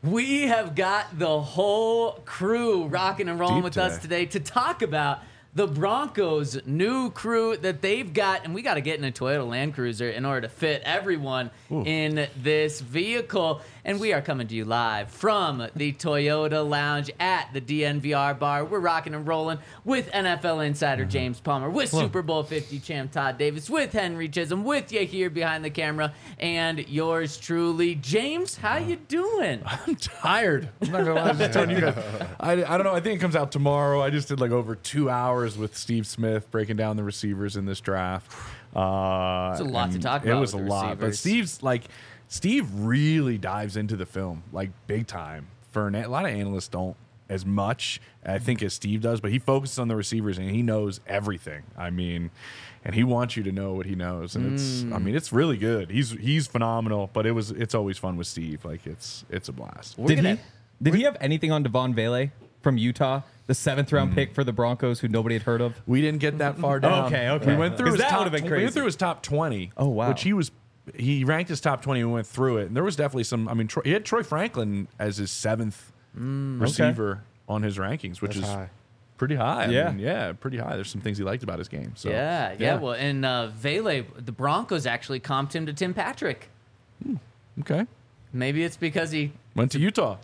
We have got the whole crew rocking and rolling Deep with us today to talk about the Broncos' new crew that they've got, and we got to get in a Toyota Land Cruiser in order to fit everyone in this vehicle. And we are coming to you live from the Toyota Lounge at the DNVR bar. We're rocking and rolling with NFL insider James Palmer, with Super Bowl 50 champ Todd Davis, with Henry Chisholm, with you here behind the camera, and yours truly, James. How you doing? I'm tired. I'm not gonna lie. I'm just telling you guys. I don't know. I think it comes out tomorrow. I just did like over 2 hours with Steve Smith breaking down the receivers in this draft. It's a lot to talk about. It was a with the lot, but receivers. Steve really dives into the film like big time. A lot of analysts don't as much, I think, as Steve does, but he focuses on the receivers and he knows everything. I mean, and he wants you to know what he knows, and it's really good. He's phenomenal, but it's always fun with Steve. Like it's a blast. Did he have anything on Devon Vele from Utah, the 7th round pick for the Broncos, who nobody had heard of? We didn't get that far down. Okay. We went through his that top. would've been We crazy. went through his top 20. Oh, wow. Which he ranked his top 20. And we went through it, and there was definitely some. I mean, he had Troy Franklin as his 7th receiver on his rankings, which is high. pretty high. Yeah. I mean, pretty high. There's some things he liked about his game. So Yeah. Well, and Vele, the Broncos actually comped him to Tim Patrick. Okay. Maybe it's because he Went to Utah.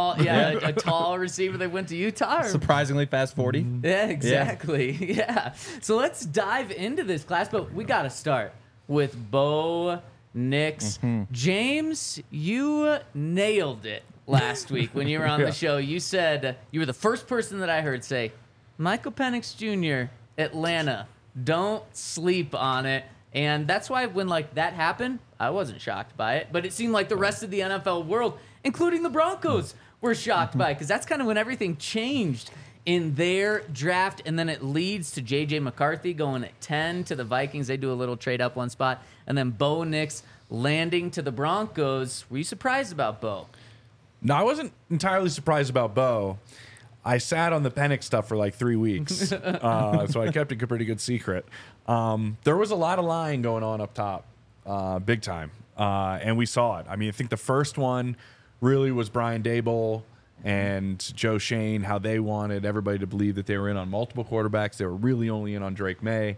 a tall receiver that went to Utah. Or, Surprisingly fast 40. yeah, exactly. Yeah. So let's dive into this class, but we got to start with Bo Nix. James, you nailed it last week when you were on the show. You said you were the first person that I heard say, Michael Penix Jr., Atlanta, don't sleep on it. And that's why when that happened, I wasn't shocked by it, but it seemed like the rest of the NFL world, including the Broncos, were shocked by it, because that's kind of when everything changed in their draft, and then it leads to J.J. McCarthy going at 10 to the Vikings. They do a little trade up one spot, and then Bo Nix landing to the Broncos. Were you surprised about Bo? No, I wasn't entirely surprised about Bo. I sat on the Penix stuff for like 3 weeks, so I kept it a pretty good secret. There was a lot of lying going on up top, big time, and we saw it. I mean, I think the first one really was Brian Daboll and Joe Shane, how they wanted everybody to believe that they were in on multiple quarterbacks. They were really only in on Drake May.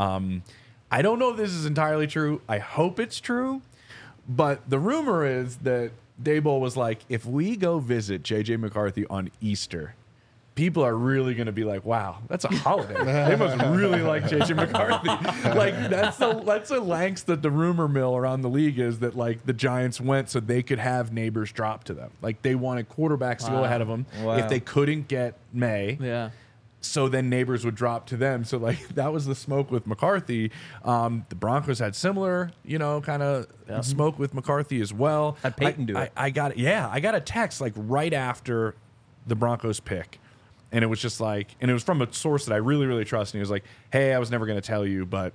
I don't know if this is entirely true. I hope it's true, but the rumor is that Daboll was like, if we go visit J.J. McCarthy on Easter, people are really going to be like, wow, that's a holiday. They must really like J.J. McCarthy. That's the lengths that the rumor mill around the league is, that the Giants went so they could have Neighbors drop to them. They wanted quarterbacks to go ahead of them if they couldn't get May. Yeah. So then Neighbors would drop to them. So that was the smoke with McCarthy. The Broncos had similar, kind of smoke with McCarthy as well. Had Peyton do it. I got a text right after the Broncos pick. And it was just and it was from a source that I really, really trust. And he was like, hey, I was never going to tell you, but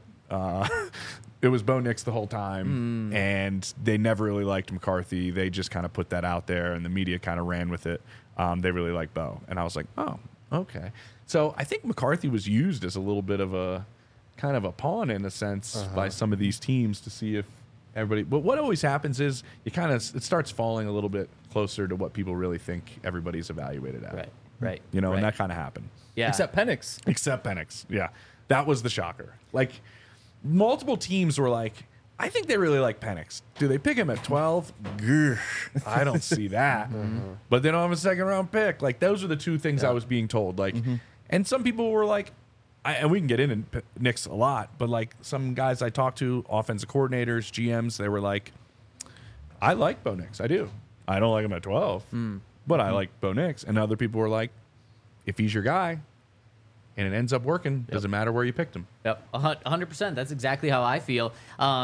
it was Bo Nix the whole time. And they never really liked McCarthy. They just kind of put that out there, and the media kind of ran with it. They really liked Bo. And I was like, oh, okay. So I think McCarthy was used as a little bit of a kind of a pawn, in a sense, by some of these teams to see if everybody. But what always happens is it starts falling a little bit closer to what people really think everybody's evaluated at. Right. And that kind of happened. Yeah. Except Penix. Except Penix. Yeah. That was the shocker. Multiple teams were like, I think they really like Penix. Do they pick him at 12? Grr, I don't see that. But they don't have a second round pick. Those are the two things I was being told. And some people were like, and we can get into Nix a lot, but some guys I talked to, offensive coordinators, GMs, they were like, I like Bo Nix. I do. I don't like him at 12. But I like Bo Nix. And other people were like, if he's your guy and it ends up working, doesn't matter where you picked him. Yep, 100%. That's exactly how I feel.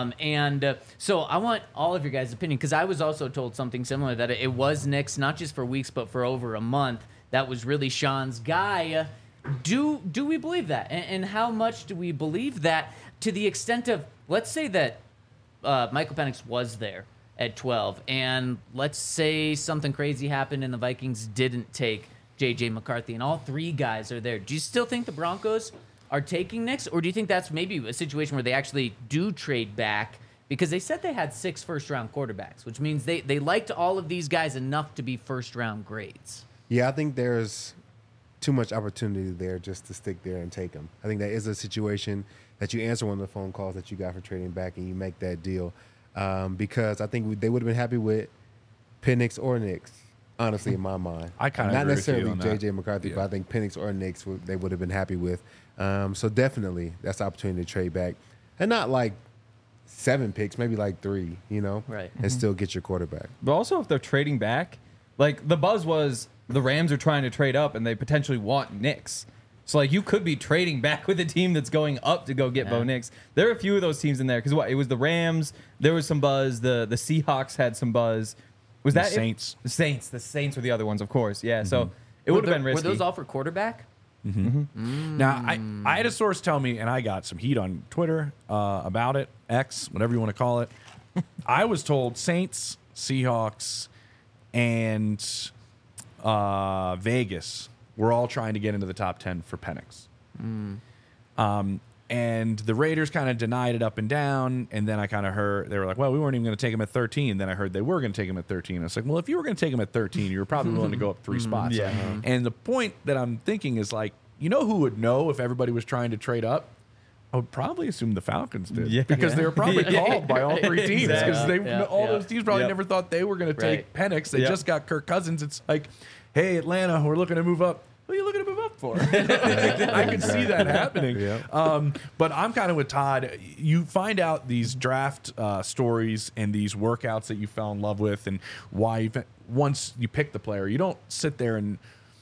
So I want all of your guys' opinion, because I was also told something similar, that it was Nix, not just for weeks, but for over a month. That was really Sean's guy. Do we believe that? And how much do we believe that, to the extent of, let's say that Michael Penix was there at 12, and let's say something crazy happened and the Vikings didn't take J.J. McCarthy, and all three guys are there. Do you still think the Broncos are taking Nix, or do you think that's maybe a situation where they actually do trade back because they said they had 6 first-round quarterbacks, which means they liked all of these guys enough to be first-round grades. Yeah, I think there's too much opportunity there just to stick there and take them. I think that is a situation that you answer one of the phone calls that you got for trading back and you make that deal. Because I think they would have been happy with Penix or Nix, honestly, in my mind. I kind of Not agree with you necessarily on that. J.J. McCarthy, Yeah. but I think Penix or Nix they would have been happy with. So definitely that's the opportunity to trade back. And not like 7 picks, maybe like 3, Right. and still get your quarterback. But also, if they're trading back, like the buzz was the Rams are trying to trade up and they potentially want Knicks. So like you could be trading back with a team that's going up to go get Bo Nix. There are a few of those teams in there because it was the Rams. There was some buzz. The Seahawks had some buzz. Was The that it? Saints. The Saints were the other ones, of course. Yeah. So it would have been risky. Were those all for quarterback? Now, I had a source tell me, and I got some heat on Twitter about it, X, whatever you want to call it. I was told Saints, Seahawks, and Vegas were all trying to get into the top 10 for Penix. And the Raiders kind of denied it up and down. And then I kind of heard, they were like, well, we weren't even going to take him at 13. Then I heard they were going to take him at 13. I was like, well, if you were going to take him at 13, you were probably willing to go up 3 spots. Yeah. And the point that I'm thinking is like, you know who would know if everybody was trying to trade up? I would probably assume the Falcons did. Yeah. Because they were probably called by all 3 teams. Because Exactly. all those teams probably Yep. never thought they were going to take Penix. They Yep. just got Kirk Cousins. It's like, hey, Atlanta, we're looking to move up. What are you looking to move up for? I could see that happening. Yeah. But I'm kind of with Todd. You find out these draft stories and these workouts that you fell in love with and why once you pick the player, you don't sit there and,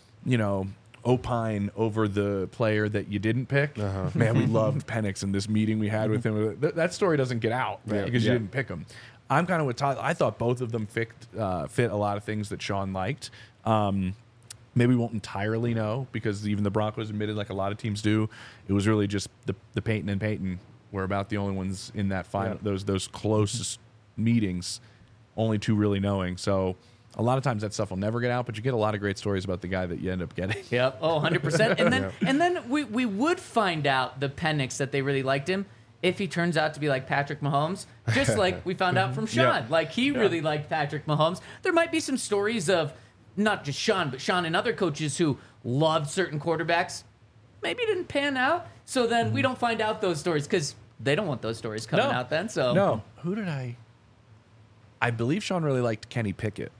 opine over the player that you didn't pick. Man, we loved Penix in this meeting we had with him. That story doesn't get out because you didn't pick him. I'm kind of with Todd. I thought both of them fit a lot of things that Sean liked. Maybe we won't entirely know because even the Broncos admitted, like a lot of teams do, it was really just the Peyton and Peyton were about the only ones in that final, those closest meetings, only 2 really knowing. So a lot of times that stuff will never get out, but you get a lot of great stories about the guy that you end up getting. Yep. Oh, 100%. And then we would find out the Penix that they really liked him if he turns out to be like Patrick Mahomes, just like we found out from Sean. Like he really liked Patrick Mahomes. There might be some stories of not just Sean, but Sean and other coaches who loved certain quarterbacks, maybe didn't pan out. So then we don't find out those stories because they don't want those stories coming out then. So No. Who did I believe Sean really liked Kenny Pickett.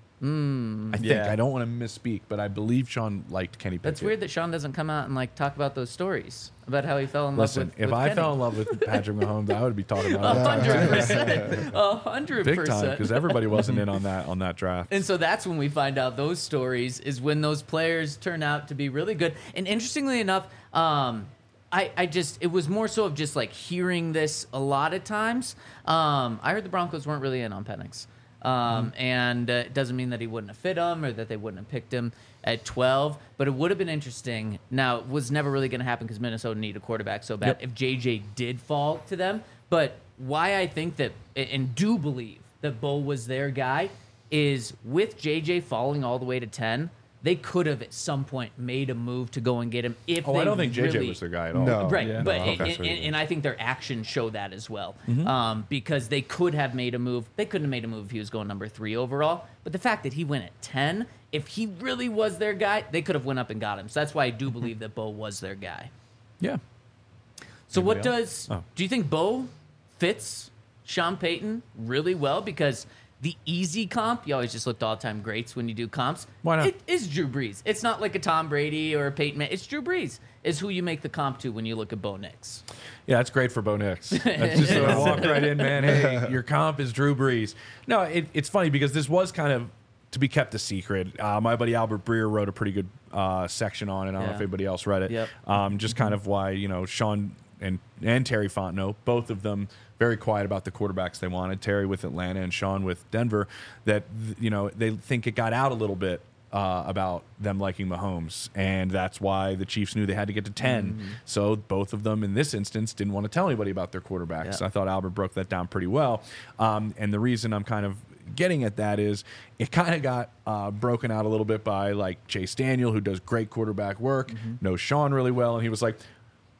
I think. Yeah. I don't want to misspeak, but I believe Sean liked Kenny Pickett. that's weird that Sean doesn't come out and like talk about those stories about how he fell in Listen, love with if with I Kenny. fell in love with Patrick Mahomes, I would be talking about it 100%, big 100%. time because everybody wasn't in on that draft. And so that's when we find out those stories is when those players turn out to be really good. And interestingly enough, it was more so of just like hearing this a lot of times. I heard the Broncos weren't really in on Penix. And it doesn't mean that he wouldn't have fit him or that they wouldn't have picked him at 12, but it would have been interesting. Now, it was never really going to happen because Minnesota needed a quarterback so bad if JJ did fall to them. But why I think that, and do believe that Bo was their guy, is with JJ falling all the way to 10, they could have at some point made a move to go and get him if they I don't think JJ really, was their guy at all. No. Right, Yeah. but No, okay. and I think their actions show that as well, because they could have made a move. They couldn't have made a move if he was going number 3 overall. But the fact that he went at 10, if he really was their guy, they could have went up and got him. So that's why I do believe that Bo was their guy. Yeah. So what Anybody does else? Oh. do you think Bo fits Sean Payton really well? Because the easy comp, you always just look to all-time greats when you do comps. Why not? It is Drew Brees. It's not like a Tom Brady or a Peyton Manning. It's Drew Brees is who you make the comp to when you look at Bo Nix. Yeah, that's great for Bo Nix. That's just a walk right in, man. Hey, your comp is Drew Brees. No, it's funny because this was kind of to be kept a secret. My buddy Albert Breer wrote a pretty good section on it. I don't know if anybody else read it. Yep. Just kind of why, Sean and Terry Fontenot, both of them very quiet about the quarterbacks they wanted. Terry with Atlanta and Sean with Denver, that, they think it got out a little bit about them liking Mahomes, and that's why the Chiefs knew they had to get to 10. So both of them in this instance didn't want to tell anybody about their quarterbacks. Yeah. I thought Albert broke that down pretty well. And the reason I'm kind of getting at that is it kind of got broken out a little bit by like Chase Daniel, who does great quarterback work, knows Sean really well, and he was like,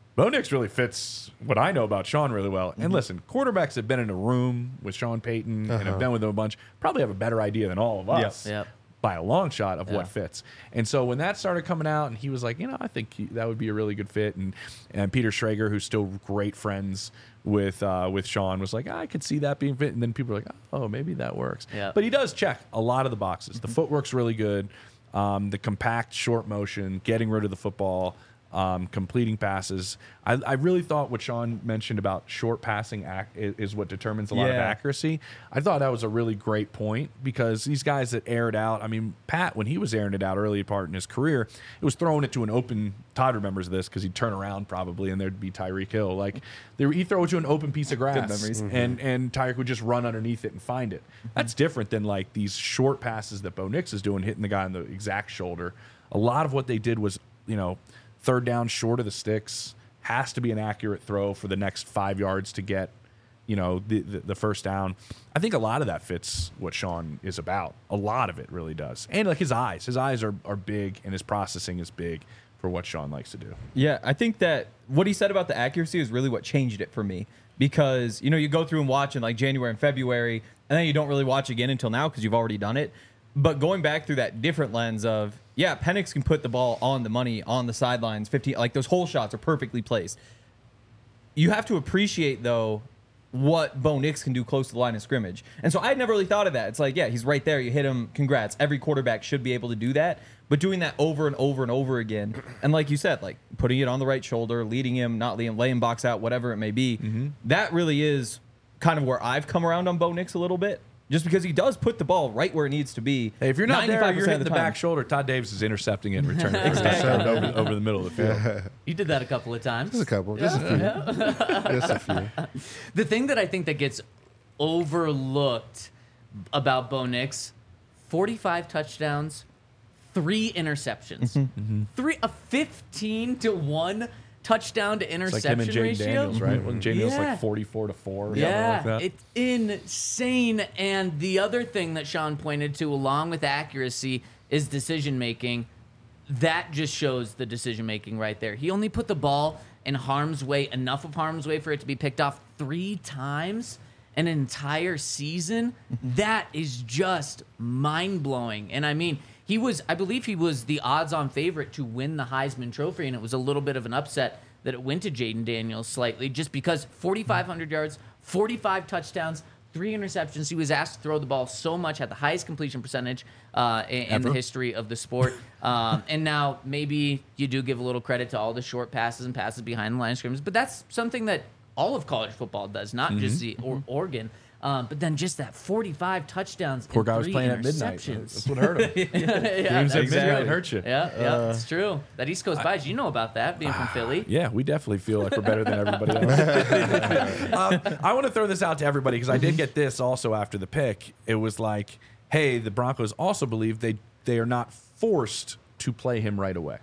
Bo Nix really fits what I know about Sean really well. And listen, quarterbacks have been in a room with Sean Payton and have been with him a bunch, probably have a better idea than all of us. Yep. By a long shot of what fits. And so when that started coming out and he was like, I think that would be a really good fit. And Peter Schrager, who's still great friends with Sean, was like, I could see that being fit. And then people are like, oh, maybe that works. Yeah. But he does check a lot of the boxes. The footwork's really good. The compact short motion, getting rid of the football, completing passes. I really thought what Sean mentioned about short passing is what determines a lot of accuracy. I thought that was a really great point because these guys that air it out, I mean, Pat, when he was airing it out early part in his career, it was throwing it to an open, Todd remembers this because he'd turn around probably and there'd be Tyreek Hill. Like he'd throw it to an open piece of grass and Tyreek would just run underneath it and find it. That's different than like these short passes that Bo Nix is doing, hitting the guy on the exact shoulder. A lot of what they did was, third down short of the sticks, has to be an accurate throw for the next 5 yards to get, the first down. I think a lot of that fits what Sean is about. A lot of it really does. And like his eyes are big and his processing is big for what Sean likes to do. Yeah, I think that what he said about the accuracy is really what changed it for me because, you go through and watch in like January and February and then you don't really watch again until now because you've already done it. But going back through that different lens of, Penix can put the ball on the money, on the sidelines, 15, like those hole shots are perfectly placed. You have to appreciate, though, what Bo Nix can do close to the line of scrimmage. And so I had never really thought of that. It's like, he's right there. You hit him. Congrats. Every quarterback should be able to do that. But doing that over and over and over again, and like you said, like putting it on the right shoulder, leading him, not leading him, laying box out, whatever it may be, that really is kind of where I've come around on Bo Nix a little bit. Just because he does put the ball right where it needs to be. Hey, if you're not there, you're hitting the time. back shoulder. Todd Davis is intercepting it and returning it over the middle of the field. You did that a couple of times. Just a couple. Just a few. Just a few. The thing that I think that gets overlooked about Bo Nix, 45 touchdowns, 3 interceptions. A 15-1 touchdown to interception It's like him and Jay ratio. Daniels, right? Wasn't Jay Daniels like 44-4 or something like that? It's insane. And the other thing that Sean pointed to, along with accuracy, is decision making. That just shows the decision making right there. He only put the ball in harm's way, enough of harm's way for it to be picked off 3 times an entire season. That is just mind blowing. And I mean, I believe he was the odds-on favorite to win the Heisman Trophy, and it was a little bit of an upset that it went to Jaden Daniels slightly, just because 4,500 yards, 45 touchdowns, 3 interceptions. He was asked to throw the ball so much, had the highest completion percentage in the history of the sport. And now maybe you do give a little credit to all the short passes and passes behind the line of scrimmage, but that's something that all of college football does, not just the Oregon. But then just that 45 touchdowns. Poor and guy was 3 playing at midnight. interceptions. That's what hurt him. Games at midnight hurt you. Yeah, it's true. That East Coast bias, you know about that, being from Philly. Yeah, we definitely feel like we're better than everybody else. I want to throw this out to everybody because I did get this also after the pick. It was like, hey, the Broncos also believe they are not forced to play him right away.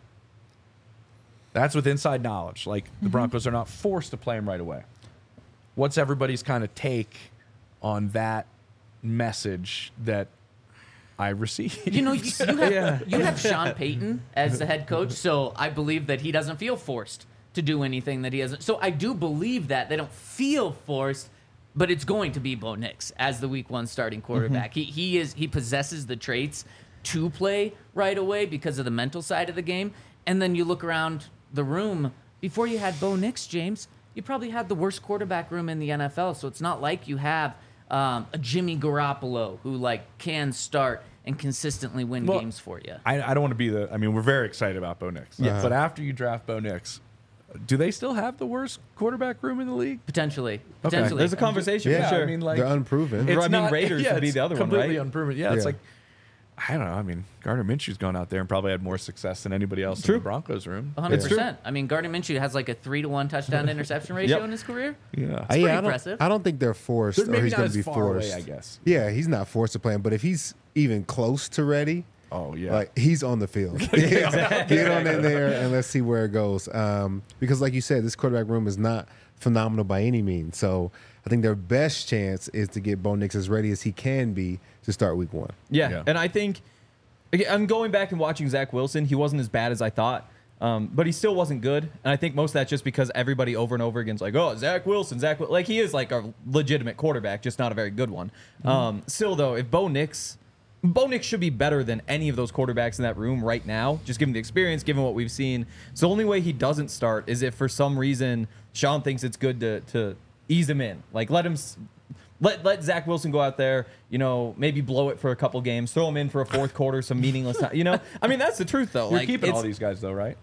That's with inside knowledge. Like, the Broncos are not forced to play him right away. What's everybody's kind of take on that message that I received? You have Sean Payton as the head coach, so I believe that he doesn't feel forced to do anything that he hasn't. So I do believe that they don't feel forced, but it's going to be Bo Nix as the Week 1 starting quarterback. He possesses the traits to play right away because of the mental side of the game. And then you look around the room, before you had Bo Nix, James, you probably had the worst quarterback room in the NFL. So it's not like you have a Jimmy Garoppolo who can start and consistently win games for you. I don't want to be we're very excited about Bo Nix. Yes. But after you draft Bo Nix, do they still have the worst quarterback room in the league? Potentially. There's a conversation for sure. They're unproven. Raiders would be the other one, completely right? unproven. Yeah, it's like, I don't know. Gardner Minshew's gone out there and probably had more success than anybody else in the Broncos room. 100%. Gardner Minshew has like a 3-to-1 touchdown to interception ratio in his career. Yeah. It's pretty impressive. I don't think they're forced or he's going to be forced. Away, I guess. Yeah, he's not forced to play him, but if he's even close to ready, oh yeah, he's on the field. Get on in there and let's see where it goes. Because like you said, this quarterback room is not phenomenal by any means. So I think their best chance is to get Bo Nix as ready as he can be to start Week 1. Yeah. And I think I'm going back and watching Zach Wilson. He wasn't as bad as I thought. But he still wasn't good. And I think most of that's just because everybody over and over again is like, oh, Zach Wilson. Like, he is like a legitimate quarterback, just not a very good one. Still, though, if Bo Nix should be better than any of those quarterbacks in that room right now, just given the experience, given what we've seen. So the only way he doesn't start is if for some reason Sean thinks it's good to ease him in. Like, let Zach Wilson go out there, maybe blow it for a couple games, throw him in for a fourth quarter, some meaningless time. I mean, that's the truth, though. You're keeping all these guys, though, right?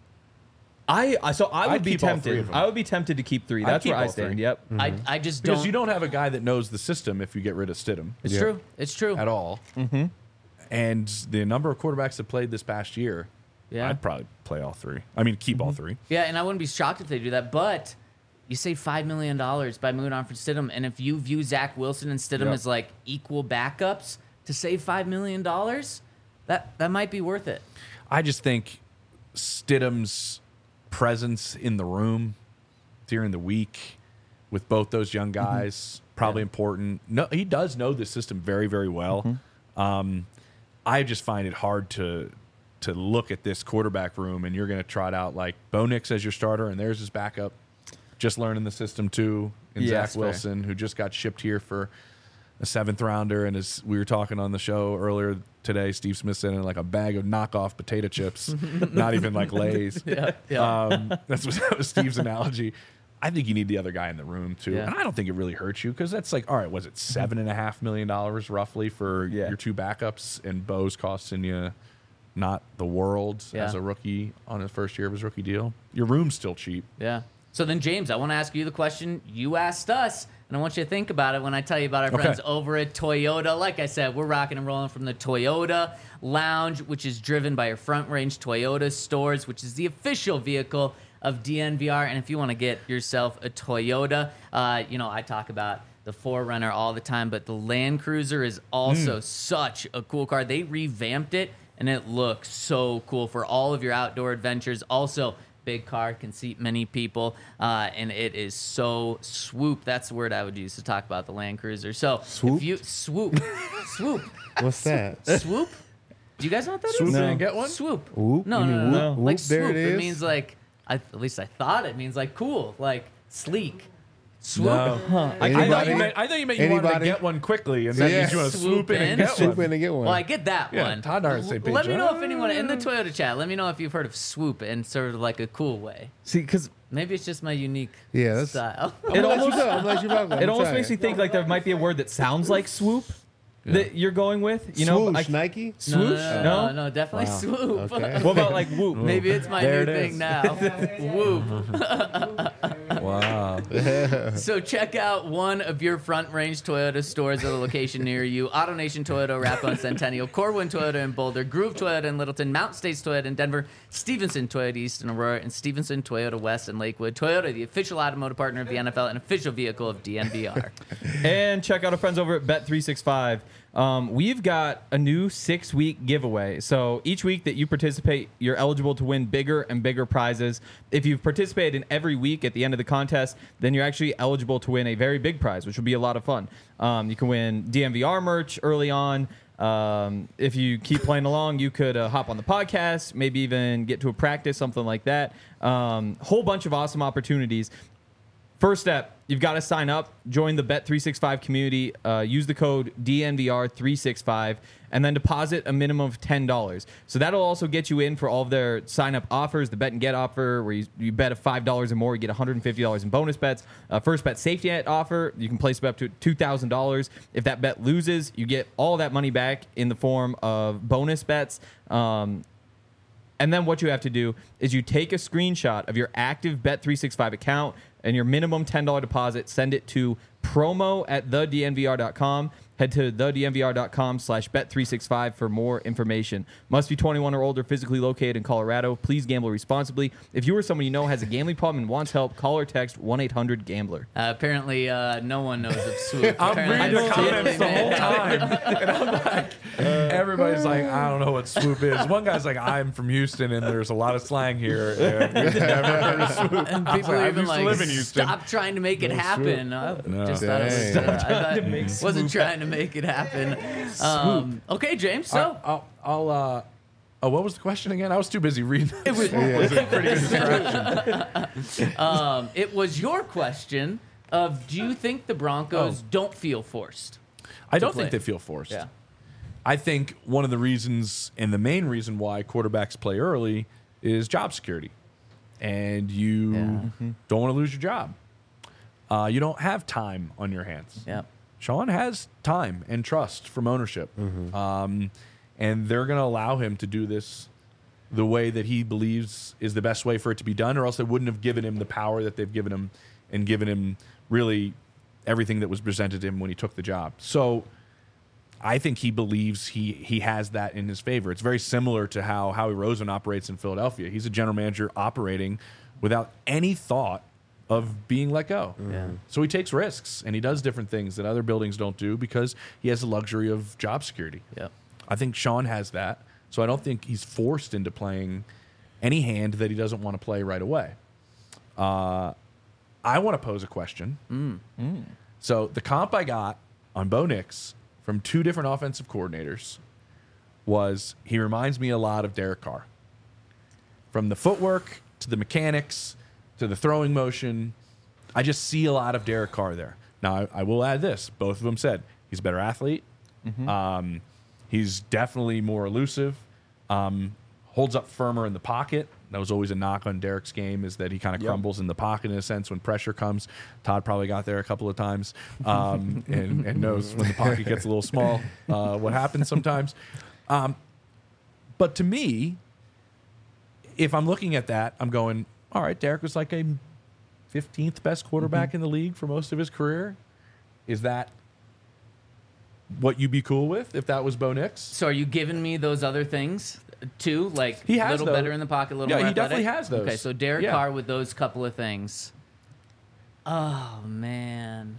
I would be keep all three tempted. of them. I would be tempted to keep 3. I'd That's keep where I all stand. 3. Yep. I just don't. Because you don't have a guy that knows the system if you get rid of Stidham. It's true. It's true. At all. Mm-hmm. And the number of quarterbacks that played this past year, Yeah. I'd probably play all 3. I mean, keep all 3. Yeah, and I wouldn't be shocked if they do that. But you save $5 million by moving on from Stidham, and if you view Zach Wilson and Stidham Yep. as like equal backups to save $5 million, that might be worth it. I just think Stidham's presence in the room during the week with both those young guys probably important. No, he does know the system very, very well. I just find it hard to look at this quarterback room and you're going to trot out like Bo Nix as your starter and there's his backup, just learning the system too, and Yeah, Zach that's fair. Wilson, who just got shipped here for a 7th rounder, and as we were talking on the show earlier today, Steve Smith said in like a bag of knockoff potato chips, not even like Lay's. That was Steve's analogy. I think you need the other guy in the room too, Yeah. and I don't think it really hurts you because that's like, all right, was it $7.5 million roughly for your 2 backups, and Bo's costing you not the world as a rookie on his first year of his rookie deal. Your room's still cheap. Yeah. So then, James, I want to ask you the question you asked us, and I want you to think about it when I tell you about our friends over at Toyota. Like I said, we're rocking and rolling from the Toyota Lounge, which is driven by your Front Range Toyota stores, which is the official vehicle of DNVR. And if you want to get yourself a Toyota, I talk about the 4Runner all the time, but the Land Cruiser is also such a cool car. They revamped it, and it looks so cool for all of your outdoor adventures. Also, big car, can seat many people, and it is so swoop. That's the word I would use to talk about the Land Cruiser. So Swoop? if you swoop, What's that? swoop. Do you guys know what that is? Swoop No. and get one? Swoop. Whoop? No, You no, mean no, no. whoop? Like Whoop, there swoop. it It is. means like, at least I thought it means like cool, like sleek. Swoop. No. I Anybody? thought you meant you wanted to Anybody? get one quickly, and that Yeah. means you want to swoop in and get Swoop one. in and get one. Well, I get that Yeah, one. Todd and I are the same page, Let me know right? if anyone in the Toyota chat. Let me know if you've heard of swoop in sort of like a cool way. See, because Maybe it's just my unique Yeah, that's- style. it almost I'm glad you brought that. it almost makes me think like there might be a word that sounds like swoop that you're going with. Swoosh, Nike. Swoosh? No, definitely Wow. swoop. Okay. What about like whoop? Maybe it's my There new it thing is. now. Whoop. Wow. So check out one of your Front Range Toyota stores at a location near you. AutoNation Toyota, Arapahoe and Centennial, Corwin Toyota in Boulder, Groove Toyota in Littleton, Mountain States Toyota in Denver, Stevenson Toyota East in Aurora, and Stevenson Toyota West in Lakewood. Toyota, the official automotive partner of the NFL and official vehicle of DNVR. And check out our friends over at Bet365. We've got a new 6-week giveaway. So each week that you participate, you're eligible to win bigger and bigger prizes. If you've participated in every week at the end of the contest, then you're actually eligible to win a very big prize, which will be a lot of fun. You can win DNVR merch early on. If you keep playing along, you could hop on the podcast, maybe even get to a practice, something like that. Whole bunch of awesome opportunities. First step, you've got to sign up, join the Bet365 community, use the code DNVR365, and then deposit a minimum of $10. So that'll also get you in for all of their sign-up offers, the Bet and Get offer, where you bet $5 or more, you get $150 in bonus bets. First bet safety net offer, you can place up to $2,000. If that bet loses, you get all that money back in the form of bonus bets. And then what you have to do is you take a screenshot of your active Bet365 account and your minimum $10 deposit, send it to promo@thednvr.com. Head to thednvr.com/bet365 for more information. Must be 21 or older, physically located in Colorado. Please gamble responsibly. If you or someone you know has a gambling problem and wants help, call or text 1-800-GAMBLER. Apparently, no one knows of swoop. I'm Apparently, reading the it's comments the totally whole made up. time, and I'm like, everybody's like, I don't know what swoop is. One guy's like, I'm from Houston, and there's a lot of slang here. And we've never heard of swoop. And I was people like, are I even used to like, live in Houston. stop trying to make it happen. I No. just thought it was, Dang. I thought, wasn't trying to make it happen. Okay, James. So I'll Oh, what was the question again? I was too busy reading. It was, Pretty good distraction. it was your question of, do you think the Broncos don't feel forced? I don't play. think they feel forced. Yeah. I think one of the reasons and the main reason why quarterbacks play early is job security. And you don't want to lose your job. You don't have time on your hands. Yeah. Sean has time and trust from ownership. And they're going to allow him to do this the way that he believes is the best way for it to be done, or else they wouldn't have given him the power that they've given him and given him really everything that was presented to him when he took the job. So I think he believes he has that in his favor. It's very similar to how Howie Roseman operates in Philadelphia. He's a general manager operating without any thought of being let go. Yeah. So he takes risks, and he does different things that other buildings don't do because he has the luxury of job security. Yep. I think Sean has that. So I don't think he's forced into playing any hand that he doesn't want to play right away. I want to pose a question. So the comp I got on Bo Nix from 2 different offensive coordinators was he reminds me a lot of Derek Carr. From the footwork to the mechanics to the throwing motion, I just see a lot of Derek Carr there. Now, I will add this. Both of them said he's a better athlete. He's definitely more elusive, holds up firmer in the pocket. That was always a knock on Derek's game, is that he kind of crumbles in the pocket in a sense when pressure comes. Todd probably got there a couple of times and knows when the pocket gets a little small what happens sometimes. But to me, if I'm looking at that, I'm going, all right, Derek was like a 15th best quarterback in the league for most of his career. Is that what you'd be cool with if that was Bo Nix? So are you giving me those other things too? Like He a has little those. better in the pocket, a little Yeah, more he definitely athletic? has those. Okay, so Derek Yeah. Carr with those couple of things. Oh, man.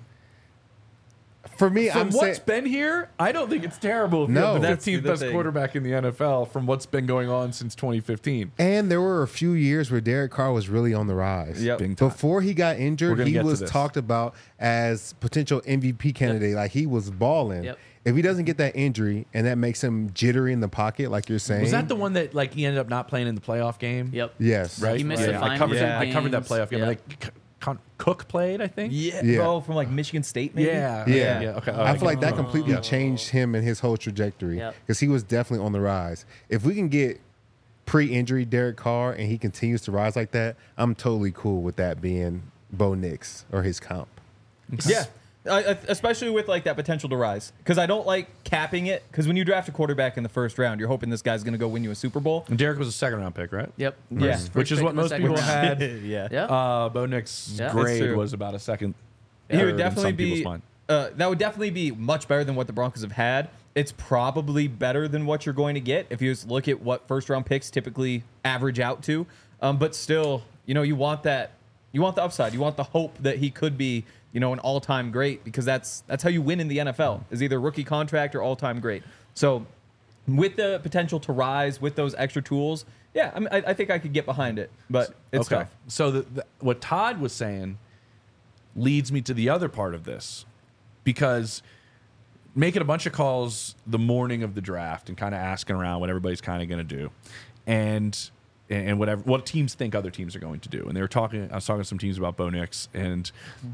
For me, From I'm what's saying been here, I don't think it's terrible if No. you're the That's 15th the best thing. quarterback in the NFL from what's been going on since 2015. and there were a few years where Derek Carr was really on the rise. Yep. Big time. Before he got We're injured, gonna he get to was this. talked about as potential MVP candidate. Like he was balling. Yep. If he doesn't get that injury and that makes him jittery in the pocket, like you're saying, Was that the one that like he ended up not playing in the playoff game? Yep. yes, Right. He missed Yeah, the I final covered, two that, I covered that games. playoff game. Yep. Like, Cook played, I think. Yeah, Yeah. bro, from like Michigan State, maybe. Yeah. Yeah. Okay. I feel like that completely Yeah. changed him and his whole trajectory Yep. because he was definitely on the rise. If we can get pre-injury Derek Carr and he continues to rise like that, I'm totally cool with that being Bo Nix or his comp. Yeah. Especially with like that potential to rise, because I don't like capping it. Because when you draft a quarterback in the first round, you're hoping this guy's going to go win you a Super Bowl. And Derek was a 2nd-round pick, right? Yep. Yeah. First Which is pick what in the most second people round. had. Yeah. Yeah. Bo Nix's Yeah. That's grade true. was about a second. He third would in definitely some people's be. mind. That would definitely be much better than what the Broncos have had. It's probably better than what you're going to get if you just look at what first round picks typically average out to. But still, you want that. You want the upside. You want the hope that he could be, an all-time great, because that's how you win in the NFL, is either rookie contract or all-time great. So with the potential to rise with those extra tools, yeah, I think I could get behind it, but it's tough. So what Todd was saying leads me to the other part of this, because making a bunch of calls the morning of the draft and kind of asking around what everybody's kind of going to do, and what teams think other teams are going to do. And I was talking to some teams about Bo Nix, and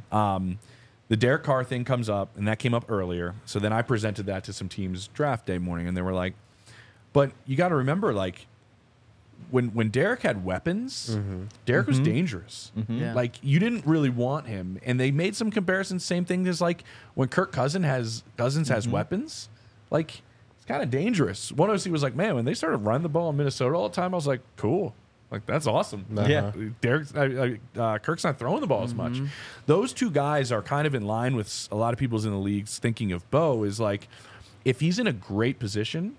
the Derek Carr thing comes up, and that came up earlier. So then I presented that to some teams draft day morning, and they were like, but you got to remember, like, when Derek had weapons, Derek was dangerous. Yeah. Like, you didn't really want him. And they made some comparisons, same thing as like when Kirk Cousins has weapons, like, it's kind of dangerous. One OC was like, man, when they started running the ball in Minnesota all the time, I was like, cool. Like, that's awesome. Yeah. Derek's, Kirk's not throwing the ball as much. Those two guys are kind of in line with a lot of people's in the leagues thinking of Bo, is like, if he's in a great position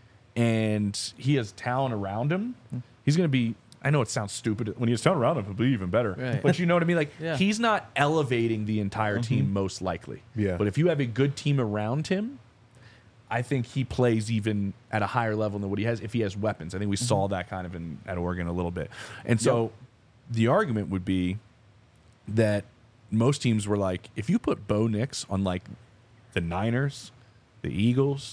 and he has talent around him, he's going to be, I know it sounds stupid. When he has talent around him, he'll be even better. Right. But you know what I mean? Like, Yeah. he's not elevating the entire team, most likely. Yeah. But if you have a good team around him, I think he plays even at a higher level than what he has if he has weapons. I think we saw that kind of at Oregon a little bit. And so the argument would be that most teams were like, if you put Bo Nix on like the Niners, the Eagles,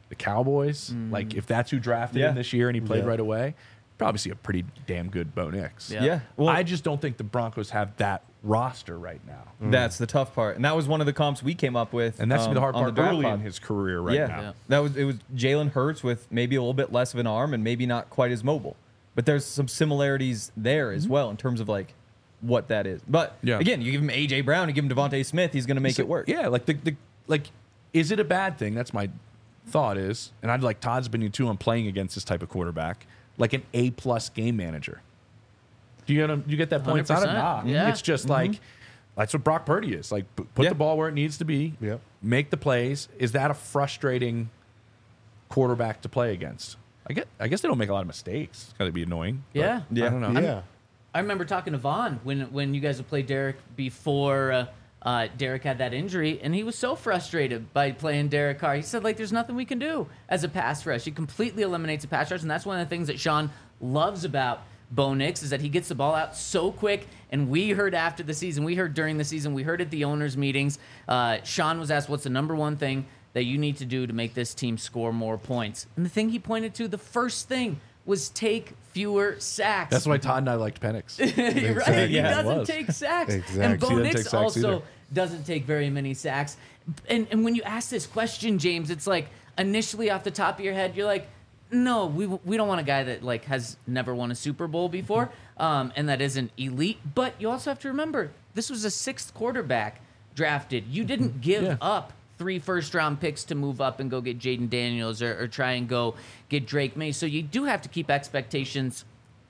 the Cowboys, like if that's who drafted Yeah. him this year and he played Yeah. right away, probably see a pretty damn good Bo Nix. Yeah. Yeah. Well, I just don't think the Broncos have that roster right now. that's the tough part, and that was one of the comps we came up with. And that's the hard on part draft early pod. in his career right yeah. now. Yeah. It was Jalen Hurts with maybe a little bit less of an arm and maybe not quite as mobile, but there's some similarities there as well in terms of like what that is. But Yeah. again, you give him AJ Brown, you give him Devontae Smith, he's going to make it work. Yeah, like like, is it a bad thing? That's my thought is, and I'd like Todd's opinion too on playing against this type of quarterback, like an A+ game manager. Do you get that point? It's not a 100%. knock. Yeah. It's just like that's what Brock Purdy is. Like put Yeah. the ball where it needs to be. Yep. Make the plays. Is that a frustrating quarterback to play against? I guess they don't make a lot of mistakes. It's got to be annoying. but Yeah. Yeah. I don't know. Yeah. I remember talking to Vaughn when you guys would play Derek before Derek had that injury, and he was so frustrated by playing Derek Carr. He said, like, there's nothing we can do as a pass rush. He completely eliminates a pass rush, and that's one of the things that Sean loves about Bo Nix is that he gets the ball out so quick. And we heard after the season, we heard during the season, we heard at the owners' meetings, Sean was asked, what's the number one thing that you need to do to make this team score more points? And the thing he pointed to, the first thing, was take fewer sacks. That's why Todd and I liked Penix. You're right. He Yeah, it doesn't was. take sacks. Exactly. And Bo He doesn't Nix take sacks also either. doesn't take very many sacks. And when you ask this question, James, it's like initially off the top of your head, you're like, no, we don't want a guy that like has never won a Super Bowl before, and that isn't elite. But you also have to remember, this was a 6th quarterback drafted. You didn't give Yeah. up 3 first-round picks to move up and go get Jaden Daniels or try and go get Drake May. So you do have to keep expectations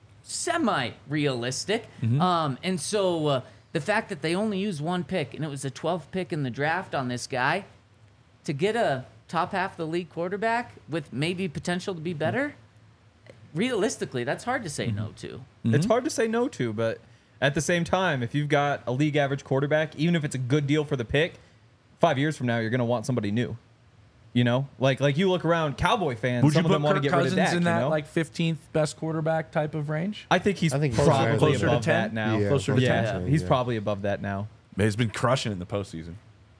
semi-realistic. And so the fact that they only used 1 pick, and it was a 12th pick in the draft on this guy, to get a top half of the league quarterback with maybe potential to be better, realistically, that's hard to say no to. It's hard to say no to, but at the same time, if you've got a league average quarterback, even if it's a good deal for the pick, 5 years from now, you're going to want somebody new. You know, like you look around, Cowboy fans, Would you some of put them want to Kirk get rid of Cousins Dak, in that you know? like 15th best quarterback type of range? I think he's I think he's probably closer to above 10. that now. Yeah, Closer to Yeah, 10. he's Yeah. probably above that now. He's been crushing it in the postseason.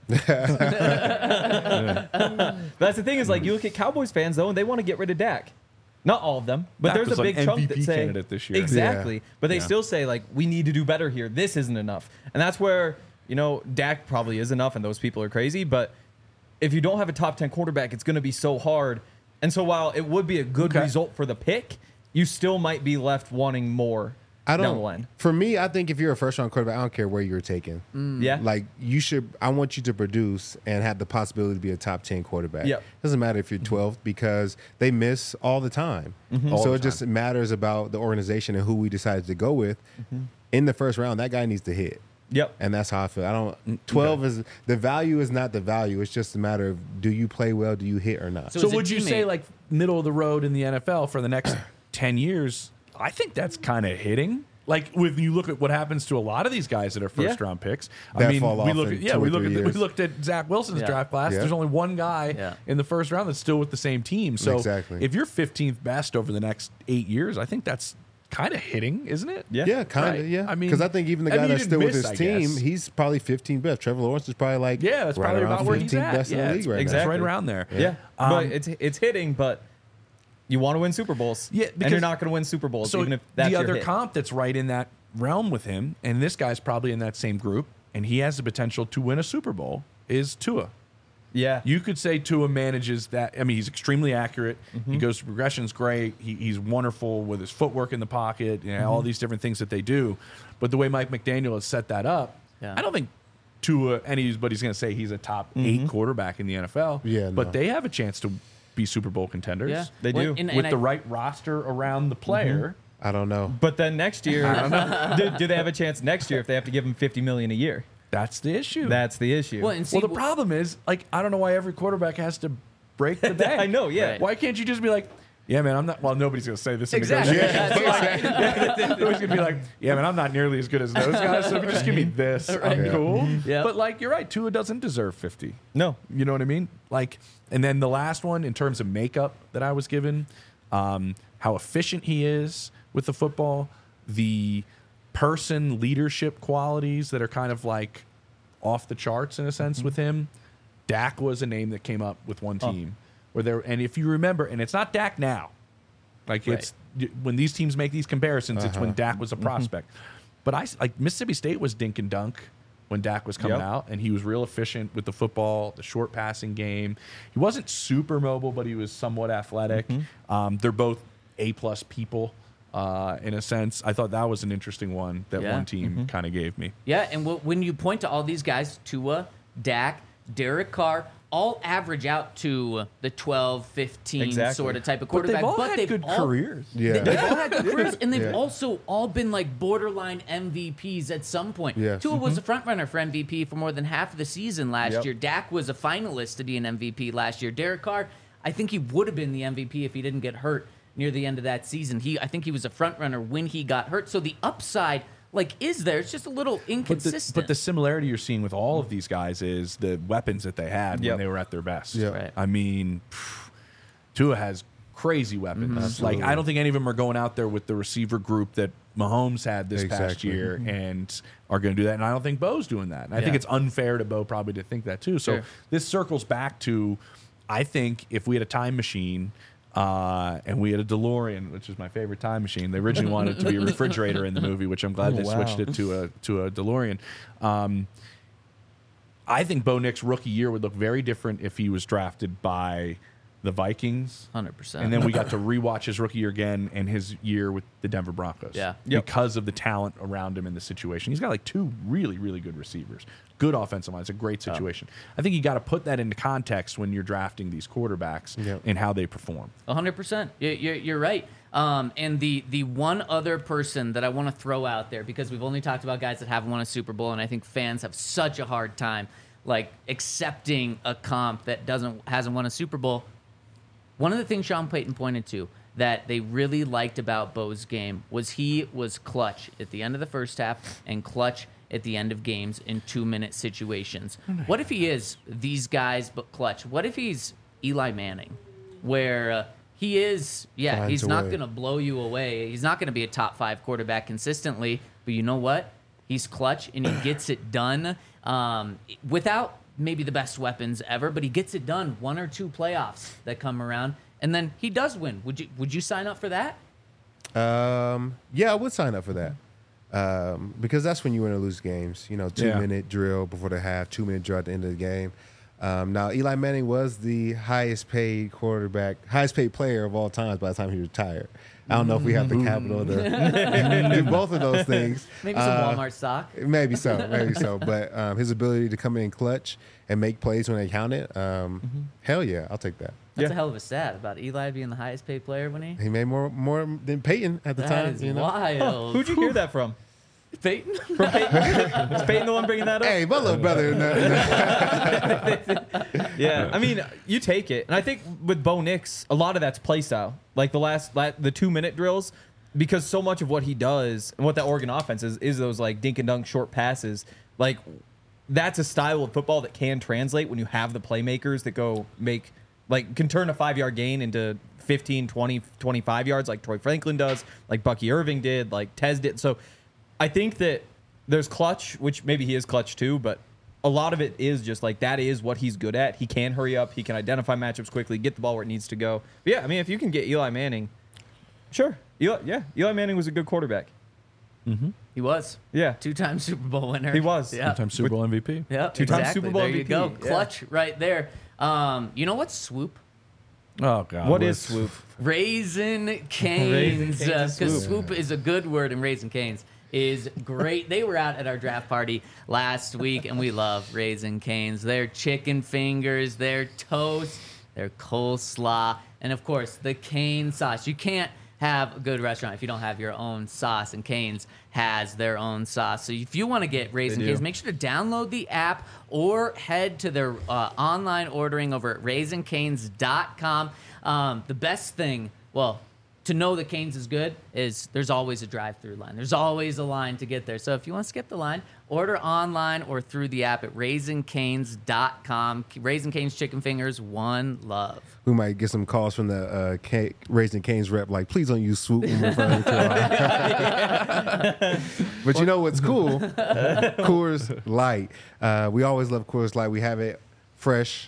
That's the thing is, like, you look at Cowboys fans, though, and they want to get rid of Dak. Not all of them, but Dak there's was a an big chunk that MVP say candidate this year. exactly. Yeah. But they Yeah. still say like we need to do better here. This isn't enough, and that's where Dak probably is enough, and those people are crazy. But if you don't have a top 10 quarterback, it's going to be so hard. And so while it would be a good Okay. result for the pick, you still might be left wanting more I down the don't. line. For me, I think if you're a first round quarterback, I don't care where you're taken. Yeah, Like you should. I want you to produce and have the possibility to be a top 10 quarterback. Yep. Doesn't matter if you're 12th because they miss all the time. All So the it just matters about the organization and who we decided to go with. In the first round, that guy needs to hit. yep. And that's how I feel. I don't. 12 is the value is not the value. It's just a matter of do you play well, do you hit or not. So So as a would you say teammate- like middle of the road in the NFL for the next 10 years? I think that's kind of hitting. Like when you look at what happens to a lot of these guys that are first Yeah. round picks. That I mean, fall we off look in at 2 or we look 3 at we years. looked at Zach Wilson's Yeah. draft class. Yeah. There's only one guy Yeah. in the first round that's still with the same team. So Exactly. if you're 15th best over the next 8 years, I think that's kind of hitting, isn't it? Yeah. Yeah, kind of. Right. Yeah, I mean- because I think even the I guy mean, that's he still didn't with miss, his I team, guess. he's probably 15 best. Trevor Lawrence is probably like Yeah, that's right probably around about where he's 15 at. best in Yeah, the it's league right exactly. now. right around there. Yeah, Um, but it's hitting, but you want to win Super Bowls. Yeah, and because- you're not going to win Super Bowls, So even if that's the your other hit. comp that's right in that realm with him, and this guy's probably in that same group, and he has the potential to win a Super Bowl, is Tua. Yeah, You could say Tua manages that. I mean, he's extremely accurate. He goes to progressions great. He's wonderful with his footwork in the pocket, all these different things that they do. But the way Mike McDaniel has set that up, Yeah. I don't think Tua, anybody's going to say he's a top 8 quarterback in the NFL. Yeah, But no. they have a chance to be Super Bowl contenders Yeah. They Well, do. and with I- the right roster around the player. I don't know. But then next year, do they have a chance next year if they have to give him $50 million a year? That's the issue. That's the issue. Well, and see, Well, the problem is, like, I don't know why every quarterback has to break the bank. I know, yeah. Right. Why can't you just be like, yeah, man, I'm not. Well, nobody's gonna say this. In exactly. negotiations. Yeah, Nobody's gonna be like, yeah, man, I'm not nearly as good as those guys. So if you just give me this, I'm Right. cool. Yeah. But like, you're right. Tua doesn't deserve 50. No. You know what I mean? Like, and then the last one in terms of makeup that I was given, how efficient he is with the football, the person leadership qualities that are kind of like off the charts in a sense with him. Dak was a name that came up with one team. where they're, and if you remember, and it's not Dak now, like Right. it's when these teams make these comparisons, it's when Dak was a prospect. But like Mississippi State was dink and dunk when Dak was coming Yep. out, and he was real efficient with the football, the short passing game. He wasn't super mobile, but he was somewhat athletic. They're both A-plus people in a sense. I thought that was an interesting one that Yeah. one team kind of gave me. Yeah, and when you point to all these guys, Tua, Dak, Derek Carr, all average out to the 12, 15 Exactly. sort of type of But quarterback. they've all had good careers. Yeah. They've all had good careers, and they've Yeah. also all been like borderline MVPs at some point. Yes. Tua was a front runner for MVP for more than half of the season last Yep. year. Dak was a finalist to be an MVP last year. Derek Carr, I think he would have been the MVP if he didn't get hurt near the end of that season. I think he was a front runner when he got hurt. So the upside, is there? It's just a little inconsistent. But the similarity you're seeing with all of these guys is the weapons that they had Yep. when they were at their best. Yeah. Right. I mean, Tua has crazy weapons. Absolutely. Like I don't think any of them are going out there with the receiver group that Mahomes had this past Exactly. year and are going to do that. And I don't think Bo's doing that. And I think Yeah. it's unfair to Bo probably to think that too. So Sure. this circles back to, I think if we had a time machine. And we had a DeLorean, which is my favorite time machine. They originally wanted it to be a refrigerator in the movie, which I'm glad Oh, they wow. switched it to a DeLorean. I think Bo Nix rookie year would look very different if he was drafted by the Vikings. 100%. And then we got to rewatch his rookie year again and his year with the Denver Broncos. Yeah. Yep. Because of the talent around him in the situation. He's got like two really, really good receivers. Good offensive line. It's a great situation. I think you got to put that into context when you're drafting these quarterbacks Yep. and how they perform. 100%. You're right. And the one other person that I want to throw out there, because we've only talked about guys that haven't won a Super Bowl, and I think fans have such a hard time accepting a comp that hasn't won a Super Bowl. One of the things Sean Payton pointed to that they really liked about Bo's game was he was clutch at the end of the first half and clutch at the end of games in 2-minute situations. What if he is these guys but clutch? What if he's Eli Manning, where he is, Finds he's a not way. going to blow you away. He's not going to be a top 5 quarterback consistently, but you know what? He's clutch and he gets it done without maybe the best weapons ever, but he gets it done. 1 or 2 playoffs that come around, and then he does win. Would you sign up for that? Yeah, I would sign up for that. Because that's when you win or lose games. 2-minute drill before the half, 2-minute drill at the end of the game. Now, Eli Manning was the highest paid player of all times by the time he retired. I don't know if we have the capital to do both of those things. Maybe some Walmart stock. Maybe so. But his ability to come in clutch and make plays when they counted, hell yeah, I'll take that. That's Yeah. a hell of a stat about Eli being the highest paid player when he. He made more than Peyton at the That time. is You know? wild. Who'd you hear that from? Peyton? From Peyton? Is Peyton the one bringing that up? Hey, my little brother. Yeah, I mean, you take it, and I think with Bo Nix, a lot of that's play style. Like the 2-minute drills, because so much of what he does and what that Oregon offense is those dink and dunk short passes. That's a style of football that can translate when you have the playmakers that can turn a 5-yard gain into 15, 20, 25 yards, like Troy Franklin does, like Bucky Irving did, like Tez did. So I think that there's clutch, which maybe he is clutch too, but a lot of it is just that is what he's good at. He can hurry up. He can identify matchups quickly, get the ball where it needs to go. But yeah, I mean, if you can get Eli Manning, sure. Eli Manning was a good quarterback. He was. Yeah. 2-time Super Bowl winner. He was. Yeah. Sometimes Super Bowl MVP. Yeah. Two-time exactly. Super Bowl There you MVP. go. Yeah. Clutch right there. You know what's swoop? Oh, God. What is swoop? Raisin Canes. Raising Cane's Because and swoop is a good word, and Raisin Canes is great. They were out at our draft party last week, and we love Raisin Canes. Their chicken fingers, their toast, their coleslaw, and of course, the cane sauce. You can't have a good restaurant if you don't have your own sauce, and Canes has their own sauce. So if you want to get Raisin do. Canes, make sure to download the app or head to their online ordering over at raisincanes.com. The best thing, to know that Canes is good is there's always a drive-through line. There's always a line to get there. So if you want to skip the line, order online or through the app at raisincanes.com. Raisin Canes chicken fingers, one love. We might get some calls from the Raising Cane's rep, please don't use swoop when referring to our But you know what's cool? Coors Light. We always love Coors Light. We have it fresh,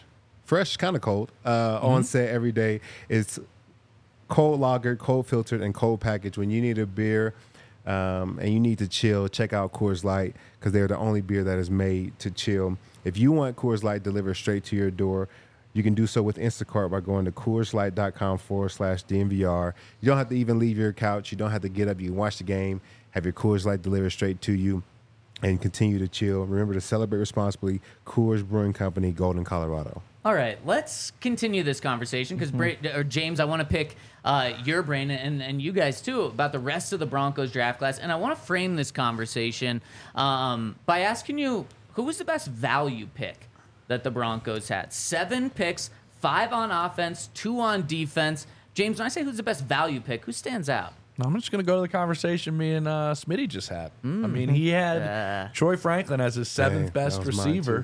fresh, kind of cold, on set every day. It's cold lagered, cold filtered, and cold packaged. When you need a beer and you need to chill, check out Coors Light because they're the only beer that is made to chill. If you want Coors Light delivered straight to your door, you can do so with Instacart by going to CoorsLight.com/DNVR. You don't have to even leave your couch. You don't have to get up. You can watch the game, have your Coors Light delivered straight to you, and continue to chill. Remember to celebrate responsibly. Coors Brewing Company, Golden, Colorado. All right, let's continue this conversation because James, I want to pick your brain and you guys too about the rest of the Broncos draft class, and I want to frame this conversation by asking you who was the best value pick that the Broncos had. 7 picks, 5 on offense, 2 on defense. James, when I say who's the best value pick, who stands out? I'm just going to go to the conversation me and Smitty just had. I mean, he had Troy Franklin as his 7th best receiver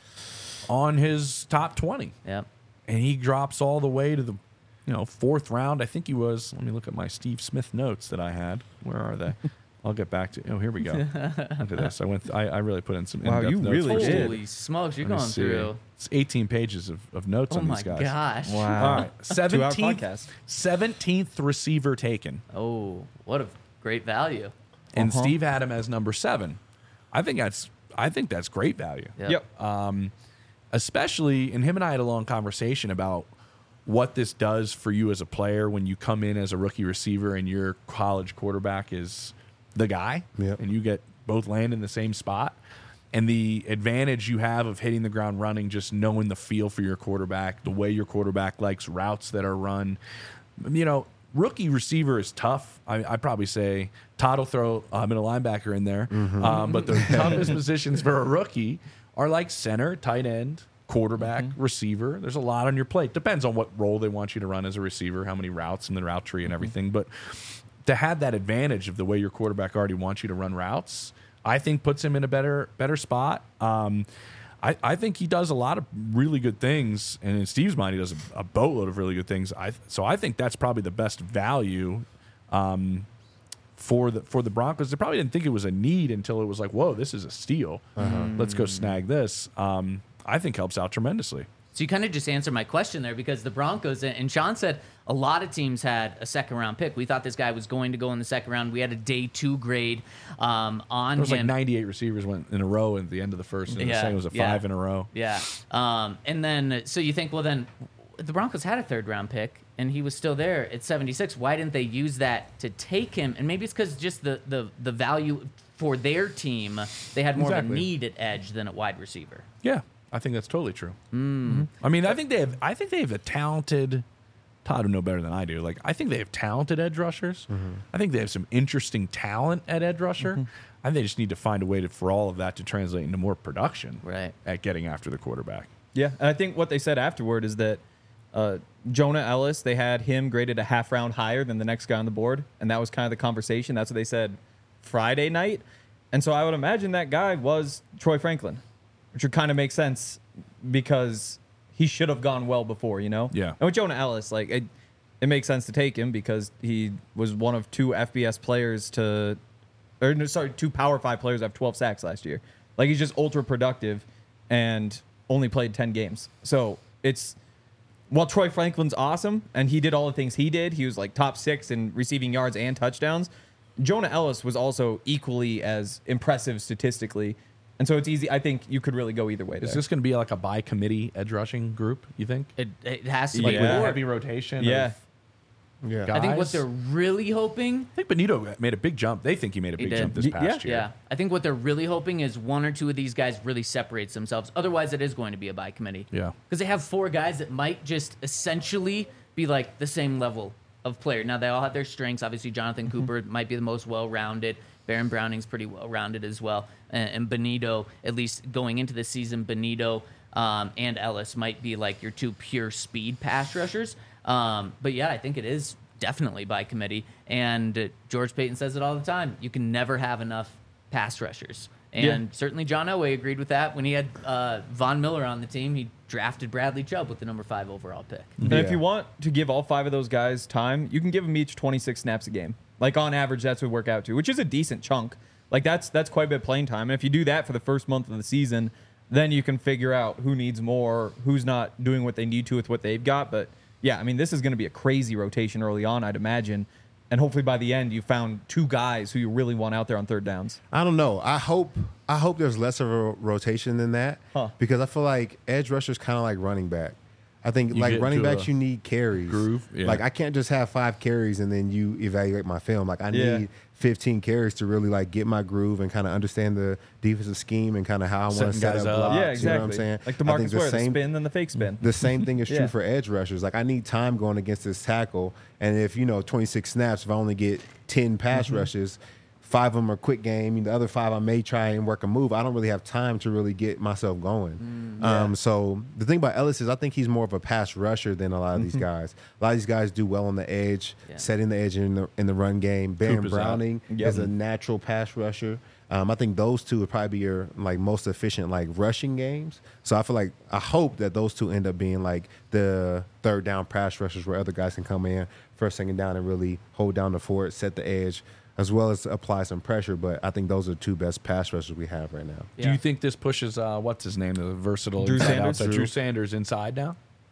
on his top 20. Yep. And he drops all the way to the 4th round. I think he was. Let me look at my Steve Smith notes that I had. Where are they? I'll get back to. Oh, here we go. Look at this. I really put in some. Wow, in-depth you notes. really did. Holy smokes, you're Let me going see. through. It's 18 pages of notes Oh on my these guys. gosh. Wow. All right, 2-hour 17th, podcast. 17th receiver taken, Oh, what a great value. and Steve had him as number 7. I think that's great value. Yep. Especially, and him and I had a long conversation about what this does for you as a player when you come in as a rookie receiver and your college quarterback is the guy, Yep. and you get both land in the same spot. And the advantage you have of hitting the ground running, just knowing the feel for your quarterback, the way your quarterback likes routes that are run. Rookie receiver is tough. I'd probably say Todd will throw a linebacker in there. But the toughest positions for a rookie are like center, tight end, quarterback, receiver. There's a lot on your plate. Depends on what role they want you to run as a receiver, how many routes in the route tree and everything. But to have that advantage of the way your quarterback already wants you to run routes, I think puts him in a better spot. I think he does a lot of really good things, and in Steve's mind, he does a boatload of really good things. So I think that's probably the best value for the Broncos. They probably didn't think it was a need until it was like, whoa, this is a steal. Let's go snag this. I think helps out tremendously. So you kind of just answered my question there because the Broncos, and Sean said a lot of teams had a second-round pick. We thought this guy was going to go in the second round. We had a day 2 grade on There was like him. 98 receivers went in a row at the end of the first, and the second was a 5 in a row. Yeah. And then, so you think, well, then the Broncos had a third-round pick, and he was still there at 76. Why didn't they use that to take him? And maybe it's because just the value for their team, they had more of a Exactly. need at edge than at wide receiver. Yeah, I think that's totally true. I mean, I think they have a talented. Todd would know better than I do. Like, I think they have talented edge rushers. I think they have some interesting talent at edge rusher. I think they just need to find a way for all of that to translate into more production. Right. At getting after the quarterback. Yeah, and I think what they said afterward is that Jonah Ellis, they had him graded a half round higher than the next guy on the board, and that was kind of the conversation. That's what they said Friday night. And so I would imagine that guy was Troy Franklin, which would kind of make sense because he should have gone well before, Yeah. And with Jonah Ellis, like it makes sense to take him because he was one of 2 FBS players two Power 5 players to have 12 sacks last year. Like, he's just ultra productive and only played 10 games. So while Troy Franklin's awesome and he did all the things he did, he was like top 6 in receiving yards and touchdowns. Jonah Ellis was also equally as impressive statistically. And so it's easy. I think you could really go either way. Is there. this going to be like a by committee edge rushing group? You think? It has to Like be with more. heavy rotation? Yeah. Yeah. I think what guys? they're really hoping I think Benito made a big jump. They think he made a big did. jump this past year. Yeah, I think what they're really hoping is 1 or 2 of these guys really separates themselves. Otherwise, it is going to be a by committee. Yeah. Because they have 4 guys that might just essentially be like the same level of player. Now, they all have their strengths. Obviously, Jonathan Cooper might be the most well-rounded. Baron Browning's pretty well-rounded as well. And Benito, at least going into the season, Benito and Ellis might be like your 2 pure speed pass rushers. But yeah, I think it is definitely by committee. And George Payton says it all the time. You can never have enough pass rushers. And certainly John Elway agreed with that. When he had Von Miller on the team, he drafted Bradley Chubb with the number 5 overall pick. And if you want to give all 5 of those guys time, you can give them each 26 snaps a game. Like, on average, that's what we work out to, which is a decent chunk. Like, that's quite a bit of playing time. And if you do that for the first month of the season, then you can figure out who needs more, who's not doing what they need to with what they've got. But yeah, I mean, this is going to be a crazy rotation early on, I'd imagine. And hopefully by the end, you found two guys who you really want out there on third downs. I don't know. I hope there's less of a rotation than that because I feel like edge rushers kind of like running back. I think You like get running into backs, a you need carries. groove, yeah. Like I can't just have 5 carries and then you evaluate my film. Like I Yeah. need 15 carries to really like get my groove and kind of understand the defensive scheme and kind of how I want to Setting set guys up up. blocks. Yeah, You know exactly. what I'm saying? Like the I think Marcus Ware, the spin and the fake spin. The same thing is true Yeah. for edge rushers. Like I need time going against this tackle, and if 26 snaps, if I only get 10 pass rushes, 5 of them are quick game. The other 5 I may try and work a move. I don't really have time to really get myself going. So the thing about Ellis is I think he's more of a pass rusher than a lot of these guys. A lot of these guys do well on the edge, setting the edge in the run game. Baron is out. Browning Yep. is a natural pass rusher. I think those two would probably be your like most efficient like rushing games. So I hope that those two end up being like the third down pass rushers where other guys can come in first, second down and really hold down the fort, set the edge, as well as apply some pressure. But I think those are the 2 best pass rushers we have right now. Do you think this pushes what's his name, the versatile Drew inside Sanders? outside? Drew. Drew Sanders inside now?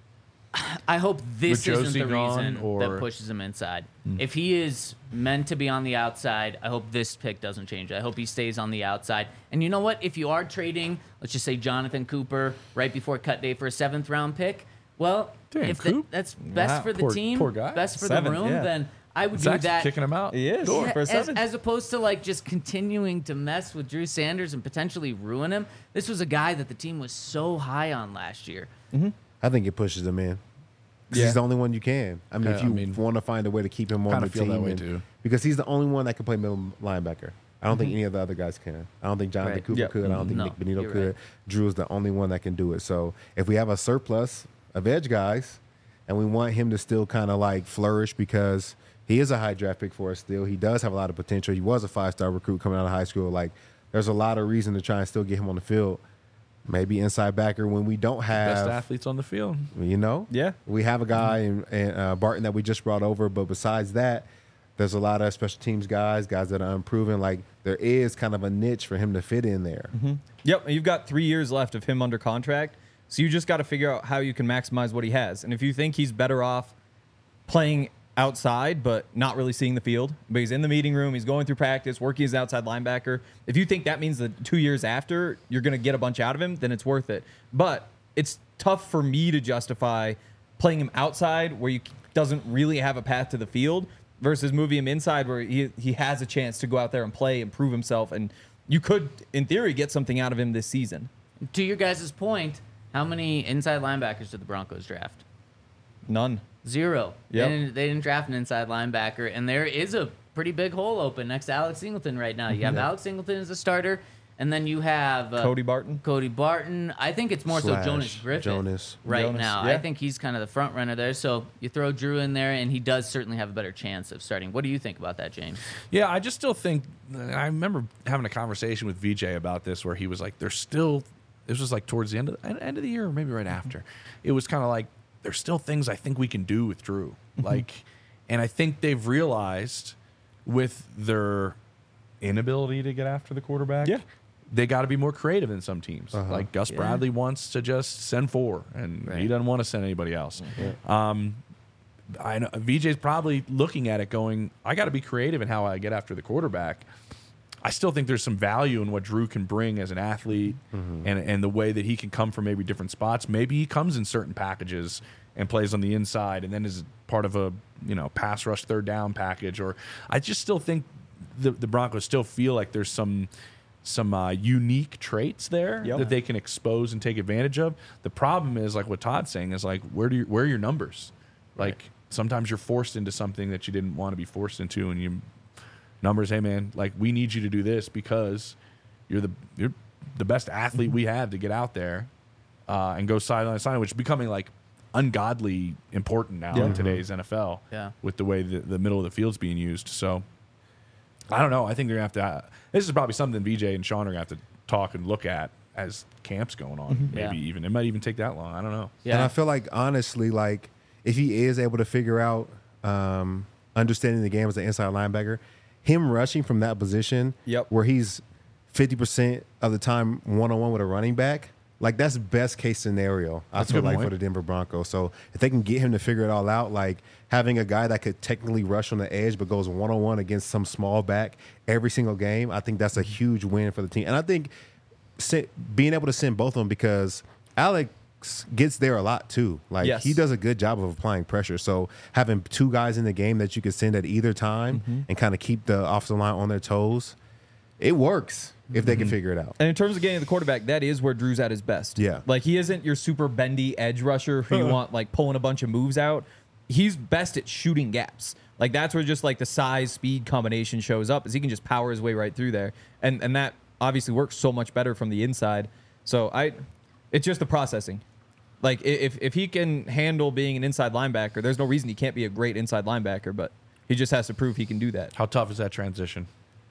I hope this With isn't Josie the gone, reason or- that pushes him inside. If he is meant to be on the outside, I hope this pick doesn't change. I hope he stays on the outside. And you know what? If you are trading, let's just say Jonathan Cooper right before cut day for a 7th round pick, well, Damn, if Coop. that's best Wow. for the Poor- team, poor guy. best for 7th, the room, yeah. then I would Zach's do that. kicking him out. He is. Yeah, For a as, 7th. as opposed to like just continuing to mess with Drew Sanders and potentially ruin him. This was a guy that the team was so high on last year. I think it pushes him in. 'Cause Yeah. he's the only one you can. I mean, Yeah, if you I mean, want to find a way to keep him on kinda the feel team, that way and- too. because he's the only one that can play middle linebacker. I don't think any of the other guys can. I don't think Jonathan Right. Cooper Yep. could. I don't think No, Nick Benito you're could. right. Drew is the only one that can do it. So if we have a surplus of edge guys, and we want him to still kind of like flourish because he is a high draft pick for us still. He does have a lot of potential. He was a 5-star recruit coming out of high school. Like there's a lot of reason to try and still get him on the field. Maybe inside backer when we don't Best have, athletes on the field. Yeah, we have a guy in Barton that we just brought over, but besides that, there's a lot of special teams guys that are unproven. Like there is kind of a niche for him to fit in there. Yep, and you've got 3 years left of him under contract, so you just got to figure out how you can maximize what he has. And if you think he's better off playing outside but not really seeing the field, but he's in the meeting room, he's going through practice, working as an outside linebacker, if you think that means that 2 years after you're going to get a bunch out of him, then it's worth it. But it's tough for me to justify playing him outside where he doesn't really have a path to the field versus moving him inside where he has a chance to go out there and play and prove himself. And you could, in theory, get something out of him this season. To your guys' point, how many inside linebackers did the Broncos draft? None. 0. Yep. They didn't draft an inside linebacker, and there is a pretty big hole open next to Alex Singleton right now. You have Alex Singleton as a starter, and then you have Cody Barton. Cody Barton. I think it's more so Slash Jonas Griffith Jonas. right Jonas, now. yeah. I think he's kind of the front runner there. So you throw Drew in there, and he does certainly have a better chance of starting. What do you think about that, James? Yeah, I just still think. I remember having a conversation with VJ about this, where he was like, "There's still." This was like towards the end of the year, or maybe right after. It was kind of like there's still things I think we can do with Drew, and I think they've realized with their inability to get after the quarterback, Yeah. they got to be more creative than some teams. Like Gus Bradley wants to just send 4, and he doesn't want to send anybody else. I know VJ's probably looking at it going, I got to be creative in how I get after the quarterback. I still think there's some value in what Drew can bring as an athlete and the way that he can come from maybe different spots. Maybe he comes in certain packages and plays on the inside and then is part of a pass rush third down package. Or I just still think the Broncos still feel like there's some unique traits there that they can expose and take advantage of. The problem is, like what Todd's saying, is like where are your numbers? Like sometimes you're forced into something that you didn't want to be forced into, and you numbers, hey man, like we need you to do this because you're the best athlete we have to get out there and go sideline to sideline, which is becoming like ungodly important now in today's NFL with the way the middle of the field's being used. So I don't know. I think they're going to have to this is probably something VJ and Sean are going to have to talk and look at as camp's going on. Maybe even it might even take that long. I don't know. And I feel like honestly, like if he is able to figure out understanding the game as an inside linebacker, him rushing from that position where he's 50% of the time one-on-one with a running back, Like that's best case scenario. I That's a feel good like point. for the Denver Broncos. So if they can get him to figure it all out, like having a guy that could technically rush on the edge but goes 1-on-1 against some small back every single game, I think that's a huge win for the team. And I think being able to send both of them, because Alex gets there a lot too. Like Yes. he does a good job of applying pressure. So having two guys in the game that you can send at either time and kind of keep the offensive line on their toes, it works if they can figure it out. And in terms of getting the quarterback, that is where Drew's at his best. Yeah. Like he isn't your super bendy edge rusher who you want like pulling a bunch of moves out. He's best at shooting gaps. Like that's where just like the size speed combination shows up, is he can just power his way right through there. And that obviously works so much better from the inside. So it's just the processing. Like if he can handle being an inside linebacker, there's no reason he can't be a great inside linebacker, but he just has to prove he can do that. How tough is that transition?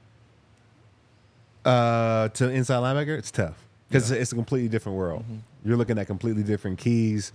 To inside linebacker, it's tough because it's a completely different world. You're looking at completely different keys.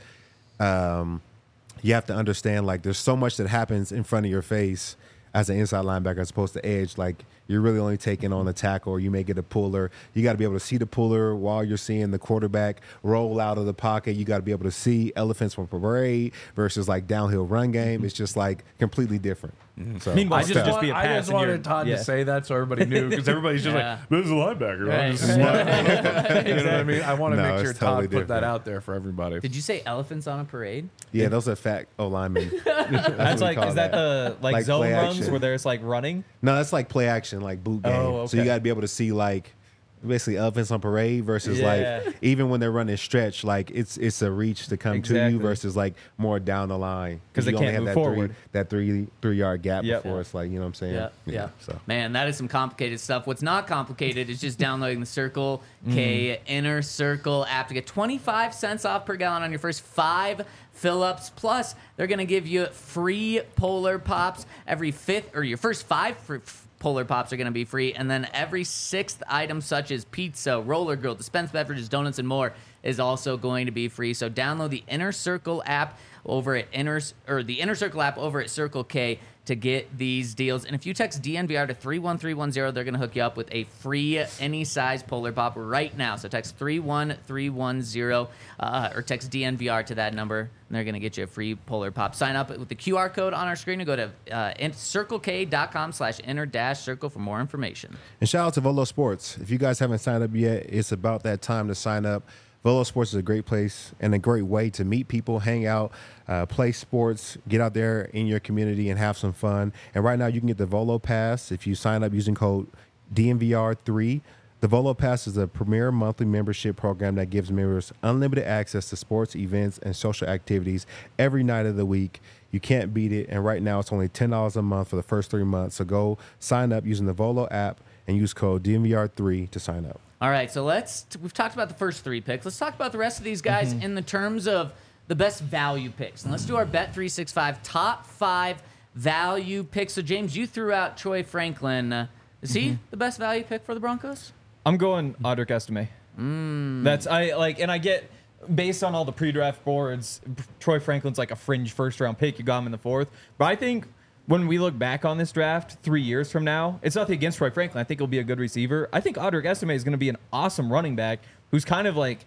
You have to understand, like, there's so much that happens in front of your face as an inside linebacker as opposed to edge. Like, you're really only taking on the tackle, or you may get a puller. You got to be able to see the puller while you're seeing the quarterback roll out of the pocket. You got to be able to see elephants from parade versus like downhill run game. It's just like completely different. So Meanwhile, I it's just, just be a I pass just and you're- wanted Todd yeah. to say that so everybody knew, because everybody's just Yeah. like, this is a linebacker. Right. This is you know what I mean? I want to No, make sure it's Todd totally put that different. out there for everybody. Did you say elephants on a parade? yeah, those are fat linemen. That's like, is that the like zone play runs action. where there's like running? No, that's like play action, like boot game. Oh, So you okay. got to be able to see like basically elephants on parade versus Yeah. like even when they're running stretch, like it's a reach to come to Exactly. you versus like more down the line 'Cause they you only can't have move that forward. that 3 yard gap Yep. before it's like, you know what I'm saying? Yeah. So Man, that is some complicated stuff. What's not complicated is just downloading the Circle K Inner Circle app to get 25 cents off per gallon on your first 5 fill-ups. Plus, they're going to give you free Polar Pops every 5th, or your first 5 Polar Pops are going to be free. And then every 6th item, such as pizza, roller grill, dispensed beverages, donuts, and more, is also going to be free. So download the Inner Circle app over at the Inner Circle app over at Circle K to get these deals. And if you text DNVR to 31310, they're going to hook you up with a free any size Polar Pop right now. So text 31310 or text DNVR to that number, and they're going to get you a free Polar Pop. Sign up with the QR code on our screen and go to circlek.com/inner-circle for more information. And shout out to Volo Sports. If you guys haven't signed up yet, it's about that time to sign up. Volo Sports is a great place and a great way to meet people, hang out, play sports, get out there in your community and have some fun. And right now you can get the Volo Pass if you sign up using code DNVR3. The Volo Pass is a premier monthly membership program that gives members unlimited access to sports, events, and social activities every night of the week. You can't beat it. And right now it's only $10 a month for the first 3 months. So go sign up using the Volo app and use code DNVR3 to sign up. All right, so we've talked about the first 3 picks. Let's talk about the rest of these guys in the terms of the best value picks. And let's do our Bet365 top 5 value picks. So, James, you threw out Troy Franklin. Is he the best value pick for the Broncos? I'm going Audric Estime. That's and I get, based on all the pre-draft boards, Troy Franklin's like a fringe first-round pick. You got him in the 4th, but I think when we look back on this draft 3 years from now, it's nothing against Troy Franklin. I think he'll be a good receiver. I think Audric Estime is going to be an awesome running back who's kind of like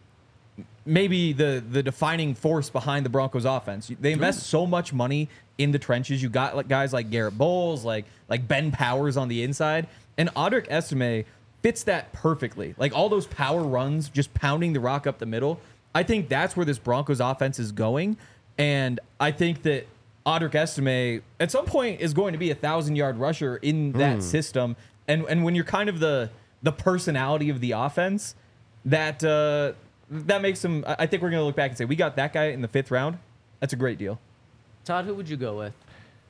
maybe the defining force behind the Broncos offense. They invest so much money in the trenches. You got like guys like Garrett Bowles, like Ben Powers on the inside, and Audric Estime fits that perfectly. Like all those power runs, just pounding the rock up the middle. I think that's where this Broncos offense is going, and I think that Audric Estime at some point is going to be a 1,000-yard rusher in that system. And when you're kind of the personality of the offense, that makes him. I think we're going to look back and say we got that guy in the 5th round. That's a great deal. Todd, who would you go with?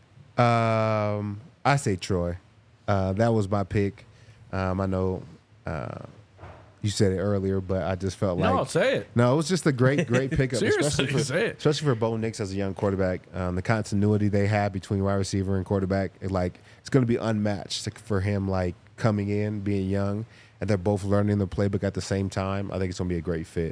I say Troy. That was my pick. I know you said it earlier, but I just felt like No, say it. No, it was just a great pickup, Seriously, say it. especially for Bo Nix as a young quarterback. The continuity they have between wide receiver and quarterback, it's going to be unmatched for him. Like coming in, being young, and they're both learning the playbook at the same time. I think it's going to be a great fit.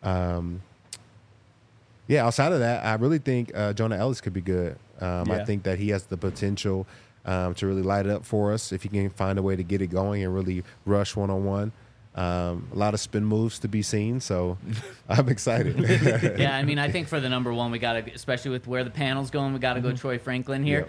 Yeah, outside of that, I really think Jonah Ellis could be good. I Yeah. think that he has the potential to really light it up for us if he can find a way to get it going and really rush one-on-one. A lot of spin moves to be seen, so I'm excited. Yeah, I mean, I think for the number one, we got to, especially with where the panel's going, we got to go Troy Franklin here.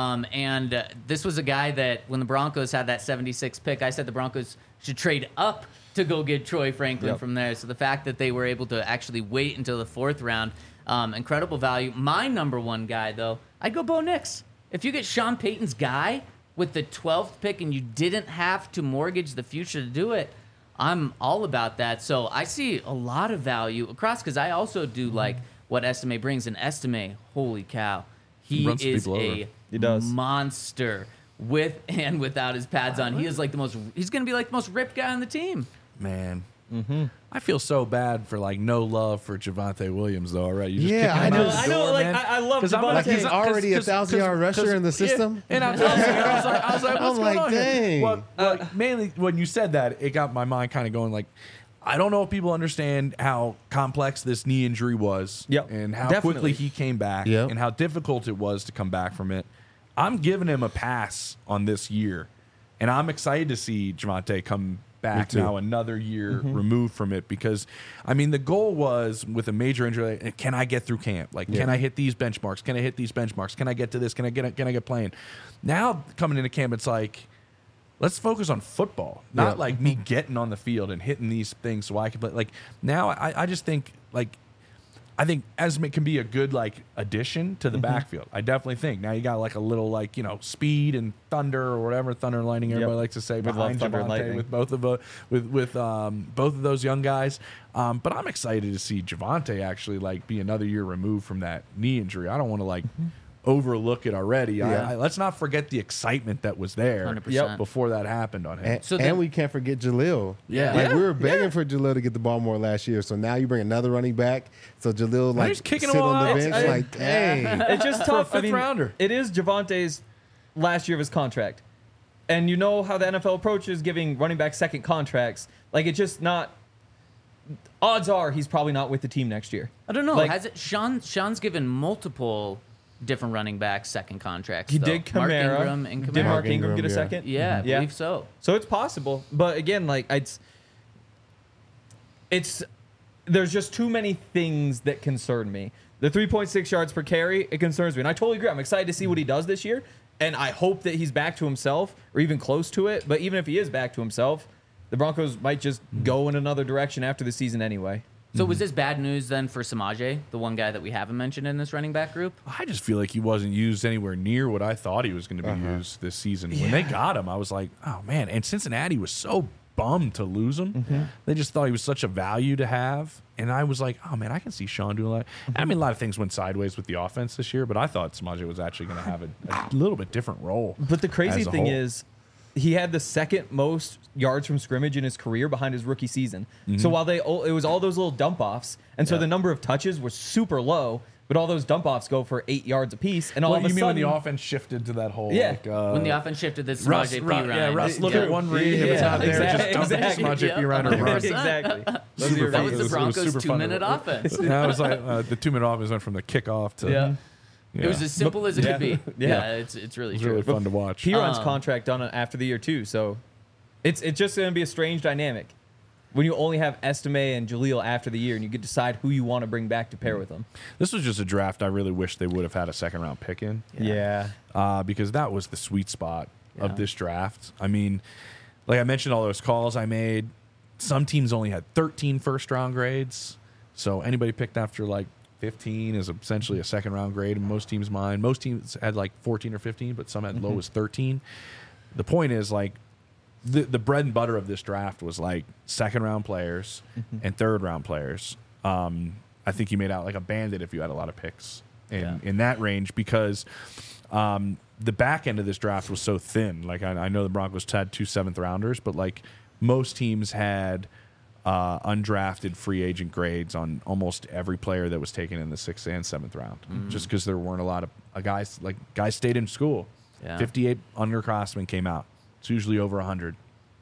And this was a guy that when the Broncos had that 76 pick, I said the Broncos should trade up to go get Troy Franklin from there. So the fact that they were able to actually wait until the 4th round, incredible value. My number one guy, though, I'd go Bo Nix. If you get Sean Payton's guy with the 12th pick and you didn't have to mortgage the future to do it, I'm all about that. So I see a lot of value across because I also do like what Estime brings. And Estime, holy cow, he runs is people over. He does. monster with and without his pads on. He is like he's going to be like the most ripped guy on the team. Man. I feel so bad for like no love for Javonte Williams though already. You just Yeah, kicked him I out know. the I know, door, like, man. I love 'Cause I'm Javonte. Like he's already a 1,000-yard rusher in the yeah. system. And I was like, what's I'm going like, on here? dang. Well, mainly when you said that, it got my mind kind of going like, I don't know if people understand how complex this knee injury was Yep, and how definitely. quickly he came back Yep. and how difficult it was to come back from it. I'm giving him a pass on this year, and I'm excited to see Javonte come back too. now another year removed from it because, I mean, the goal was with a major injury, like, can I get through camp? Like, can I hit these benchmarks? Can I hit these benchmarks? Can I get to this? Can I get playing? Now coming into camp, it's like, let's focus on football, not like me getting on the field and hitting these things so I can play. Like now, I just think like I think Esme can be a good like addition to the backfield. I definitely think. Now you got like a little like speed and thunder or whatever thunder and lightning everybody likes to say We love behind thunder and Javonte lightning. with both of both of those young guys. But I'm excited to see Javonte actually like be another year removed from that knee injury. I don't want to like overlook it already. Yeah. Let's not forget the excitement that was there 100%. before that happened on him. And, So and then- we can't forget Jalil. Yeah. Like Yeah. we were begging for Jalil to get the ball more last year. So now you bring another running back. So Jalil like he's kicking sit them all on the out. bench I- like, dang. It's just tough. fifth rounder. It is Javonte's last year of his contract. And you know how the NFL approaches giving running back second contracts. Like, it's just not. Odds are he's probably not with the team next year. I don't know. Like- Has it? Sean's given multiple different running backs second contracts. He though. did Mark Kamara. Ingram and Did Kamara. Mark Ingram Ingram, get a yeah. second? Yeah, I Yeah. believe so. So it's possible. But again, like, it's there's just too many things that concern me. The 3.6 yards per carry, it concerns me. And I totally agree. I'm excited to see what he does this year. And I hope that he's back to himself or even close to it. But even if he is back to himself, the Broncos might just go in another direction after the season anyway. So was this bad news then for Samaje, the one guy that we haven't mentioned in this running back group? I just feel like he wasn't used anywhere near what I thought he was going to be used this season. When they got him, I was like, oh, man. And Cincinnati was so bummed to lose him. They just thought he was such a value to have. And I was like, oh, man, I can see Sean doing a lot. I mean, a lot of things went sideways with the offense this year, but I thought Samaje was actually going to have a little bit different role. But the crazy as a thing whole. is, he had the second most yards from scrimmage in his career behind his rookie season. So while it was all those little dump offs, and so Yeah. the number of touches was super low, but all those dump offs go for 8 yards apiece. And all Well, of a you mean sudden, when the offense shifted to that whole Yeah. like, When the offense shifted this Russ, Samaje P. Russ, Ryan. yeah, Russ, look Yeah. at one read. If it's Yeah, not there, exactly, just dump it to exactly. Samaje P. Ryan and run. exactly. Those are Super your That fun. was reasons. the It was Broncos' super fun to 2-minute watch. offense. That was like the 2-minute offense went from the kickoff to Yeah. yeah. It was as simple as it could be. Yeah. Yeah, it's really It was true. really fun to watch. P-Ron's contract done after the year too, so it's just going to be a strange dynamic when you only have Estime and Jaleel after the year, and you get to decide who you want to bring back to pair with them. This was just a draft I really wish they would have had a second-round pick in. Yeah. Because that was the sweet spot Yeah. of this draft. I mean, like I mentioned, all those calls I made, some teams only had 13 first-round grades. So anybody picked after like 15 is essentially a second-round grade in most teams' mind. Most teams had like 14 or 15, but some had low as 13. The point is, like, the bread and butter of this draft was like second-round players and third-round players. I think you made out like a bandit if you had a lot of picks in that range because the back end of this draft was so thin. Like I know the Broncos had 2 7th-rounders, but like most teams had undrafted free agent grades on almost every player that was taken in the 6th and 7th round, just because there weren't a lot of guys. Like guys stayed in school. Yeah. 58 underclassmen came out. It's usually over 100.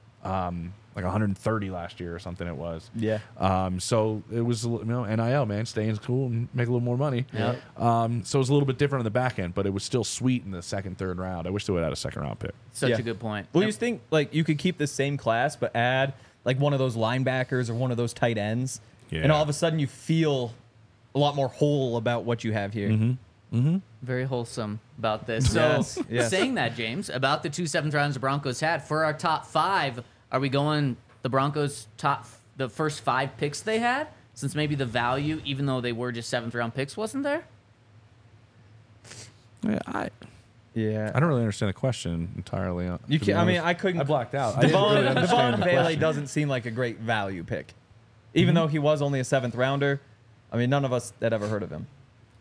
Like 130 last year or something it was. Yeah. So it was, NIL, man, stay in school and make a little more money. Yep. So it was a little bit different on the back end, but it was still sweet in the 2nd, 3rd round. I wish they would have had a 2nd-round pick. Such Yeah. a good point. Well, Yep. you think like you could keep the same class but add like one of those linebackers or one of those tight ends. Yeah. And all of a sudden you feel a lot more whole about what you have here. Very wholesome about this. So, Yes, yes. saying that, James, about the 2 7th rounds the Broncos had, for our top 5, are we going the Broncos the first 5 picks they had? Since maybe the value, even though they were just 7th round picks, wasn't there? Yeah, Yeah. I don't really understand the question entirely. You to be can, I mean, honest. I couldn't. I blacked out. I didn't really understand Devon the Bailey question. doesn't seem like a great value pick, even though he was only a 7th rounder. I mean, none of us had ever heard of him.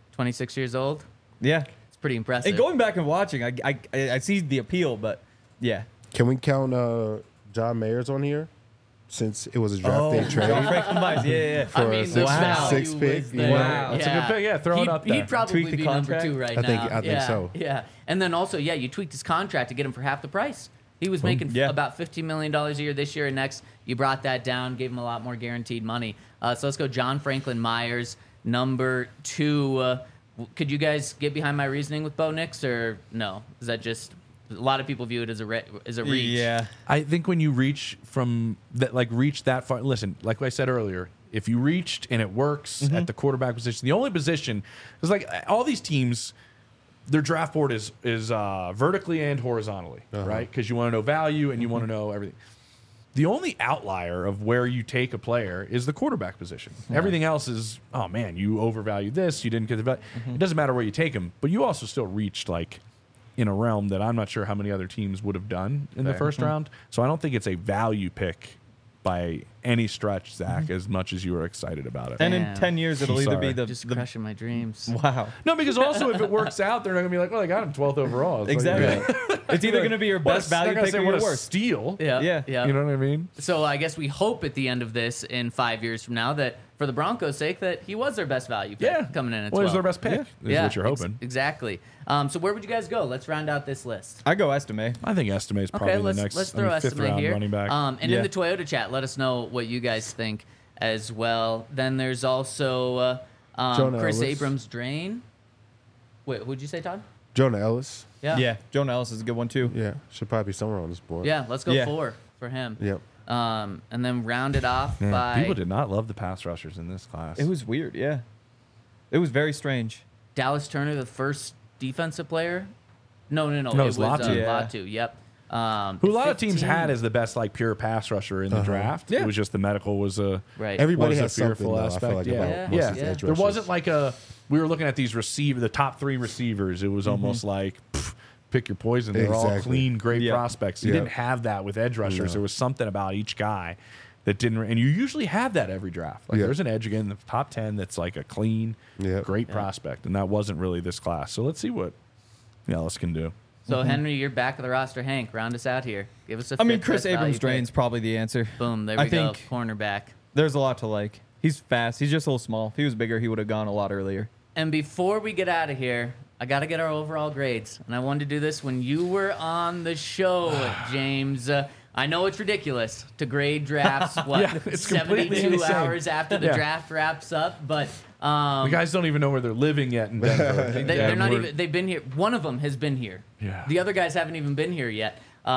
26 years old. Yeah. It's pretty impressive. And going back and watching, I see the appeal, but yeah. Can we count John Mayers on here? Since it was a draft day trade. John Franklin Myers, yeah. For I a mean, sixth- the wow. value sixth pick, was there. wow. That's a good pick. Yeah, throw it up there. He'd probably Tweak the be number contract? 2 right I think- now. I think so. Yeah. And then also, you tweaked his contract to get him for half the price. He was making Yeah. about $15 million a year this year and next. You brought that down, gave him a lot more guaranteed money. So let's go John Franklin Myers, number 2. Could you guys get behind my reasoning with Bo Nix, or no? Is that just a lot of people view it as a reach? Yeah. I think when you reach from that, like reach that far. Listen, like I said earlier, if you reached and it works at the quarterback position, the only position is like all these teams, their draft board is vertically and horizontally, right? Because you want to know value and you want to know everything. The only outlier of where you take a player is the quarterback position. Everything else is, oh man, you overvalued this, you didn't get the value. It doesn't matter where you take him, but you also still reached like in a realm that I'm not sure how many other teams would have done in the first round. So I don't think it's a value pick by any stretch, Zach, as much as you were excited about it. And in Damn. 10 years, it'll I'm either sorry. be the Just crushing my dreams. wow. No, because also if it works out, they're not going to be like, well, they got him 12th overall. It's Exactly. Like, It's either going to be your what a- best value they're gonna pick say or what your a worst. steal. Yeah. You know what I mean? So I guess we hope at the end of this, in 5 years from now, that for the Broncos' sake, that he was their best value pick Yeah. coming in at Well, 12. he's their best pick, is what you're hoping. Exactly. So where would you guys go? Let's round out this list. I go Estime. I think Estime is probably Okay, let's the next let's throw fifth estimate round here. running back. And Yeah. in the Toyota chat, let us know what you guys think as well. Then there's also Jonah Chris Ellis. Abrams Drain. Wait, what'd you say, Todd? Jonah Ellis. Yeah. Jonah Ellis is a good one, too. Yeah, should probably be somewhere on this board. Yeah, let's go Yeah. 4 for him. Yep. And then round it off Man, by people did not love the pass rushers in this class. It was weird, yeah. It was very strange. Dallas Turner, the first defensive player. No, No, it it was was Latu. Yeah. Latu. Yep. who a lot of teams 15. had as the best like pure pass rusher in the draft. Yeah. It was just the medical was a Right. Everybody was a has something, fearful though, I aspect. feel like, yeah, about most yeah. of these edge There rushers. wasn't like a. We were looking at these the top 3 receivers. It was almost like pff, pick your poison. They're all Exactly. clean, great Yeah. prospects. You Yeah. didn't have that with edge rushers. No. There was something about each guy that didn't. And you usually have that every draft. Like Yeah. there's an edge again in the top 10 that's like a clean, Yeah. great prospect, and that wasn't really this class. So let's see what Ellis can do. So Henry, you're back of the roster. Hank, round us out here. Give us a. I mean, fifth Chris best value Abrams pick. Drain's probably the answer. Boom. There we I go. think- Cornerback. There's a lot to like. He's fast. He's just a little small. If he was bigger, he would have gone a lot earlier. And before we get out of here, I got to get our overall grades. And I wanted to do this when you were on the show, James. I know it's ridiculous to grade drafts, Yeah, it's completely 72 insane. hours after the Yeah. draft wraps up, but The guys don't even know where they're living yet in Denver. they're not we're- even. They've been here. One of them has been here. Yeah. The other guys haven't even been here yet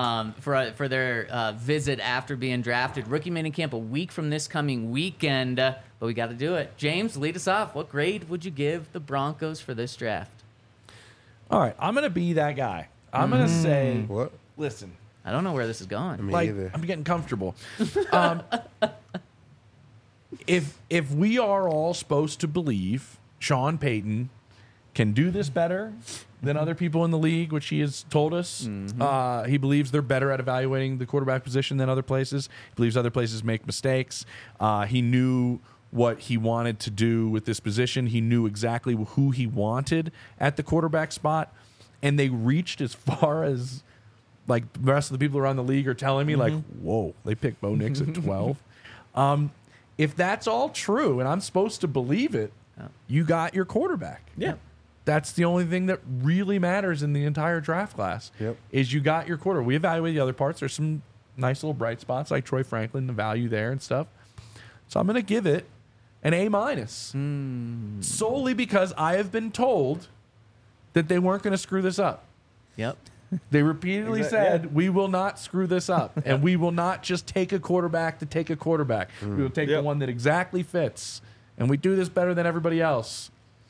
for their visit after being drafted. Rookie minicamp a week from this coming weekend, but we got to do it. James, lead us off. What grade would you give the Broncos for this draft? All right, I'm gonna be that guy. I'm gonna say, What? listen, I don't know where this is going. Me like either. I'm getting comfortable. If we are all supposed to believe Sean Payton can do this better than other people in the league, which he has told us, he believes they're better at evaluating the quarterback position than other places. He believes other places make mistakes. He knew what he wanted to do with this position. He knew exactly who he wanted at the quarterback spot, and they reached as far as like the rest of the people around the league are telling me, like, whoa, they picked Bo Nix at 12. If that's all true, and I'm supposed to believe it, you got your quarterback. Yeah. That's the only thing that really matters in the entire draft class. Yep. Is you got your quarter. We evaluate the other parts. There's some nice little bright spots like Troy Franklin, the value there and stuff. So I'm going to give it an A-, solely because I have been told that they weren't going to screw this up. Yep. They repeatedly Exactly, said, we will not screw this up. And we will not just take a quarterback to take a quarterback. We will take the Yep. one that exactly fits. And we do this better than everybody else.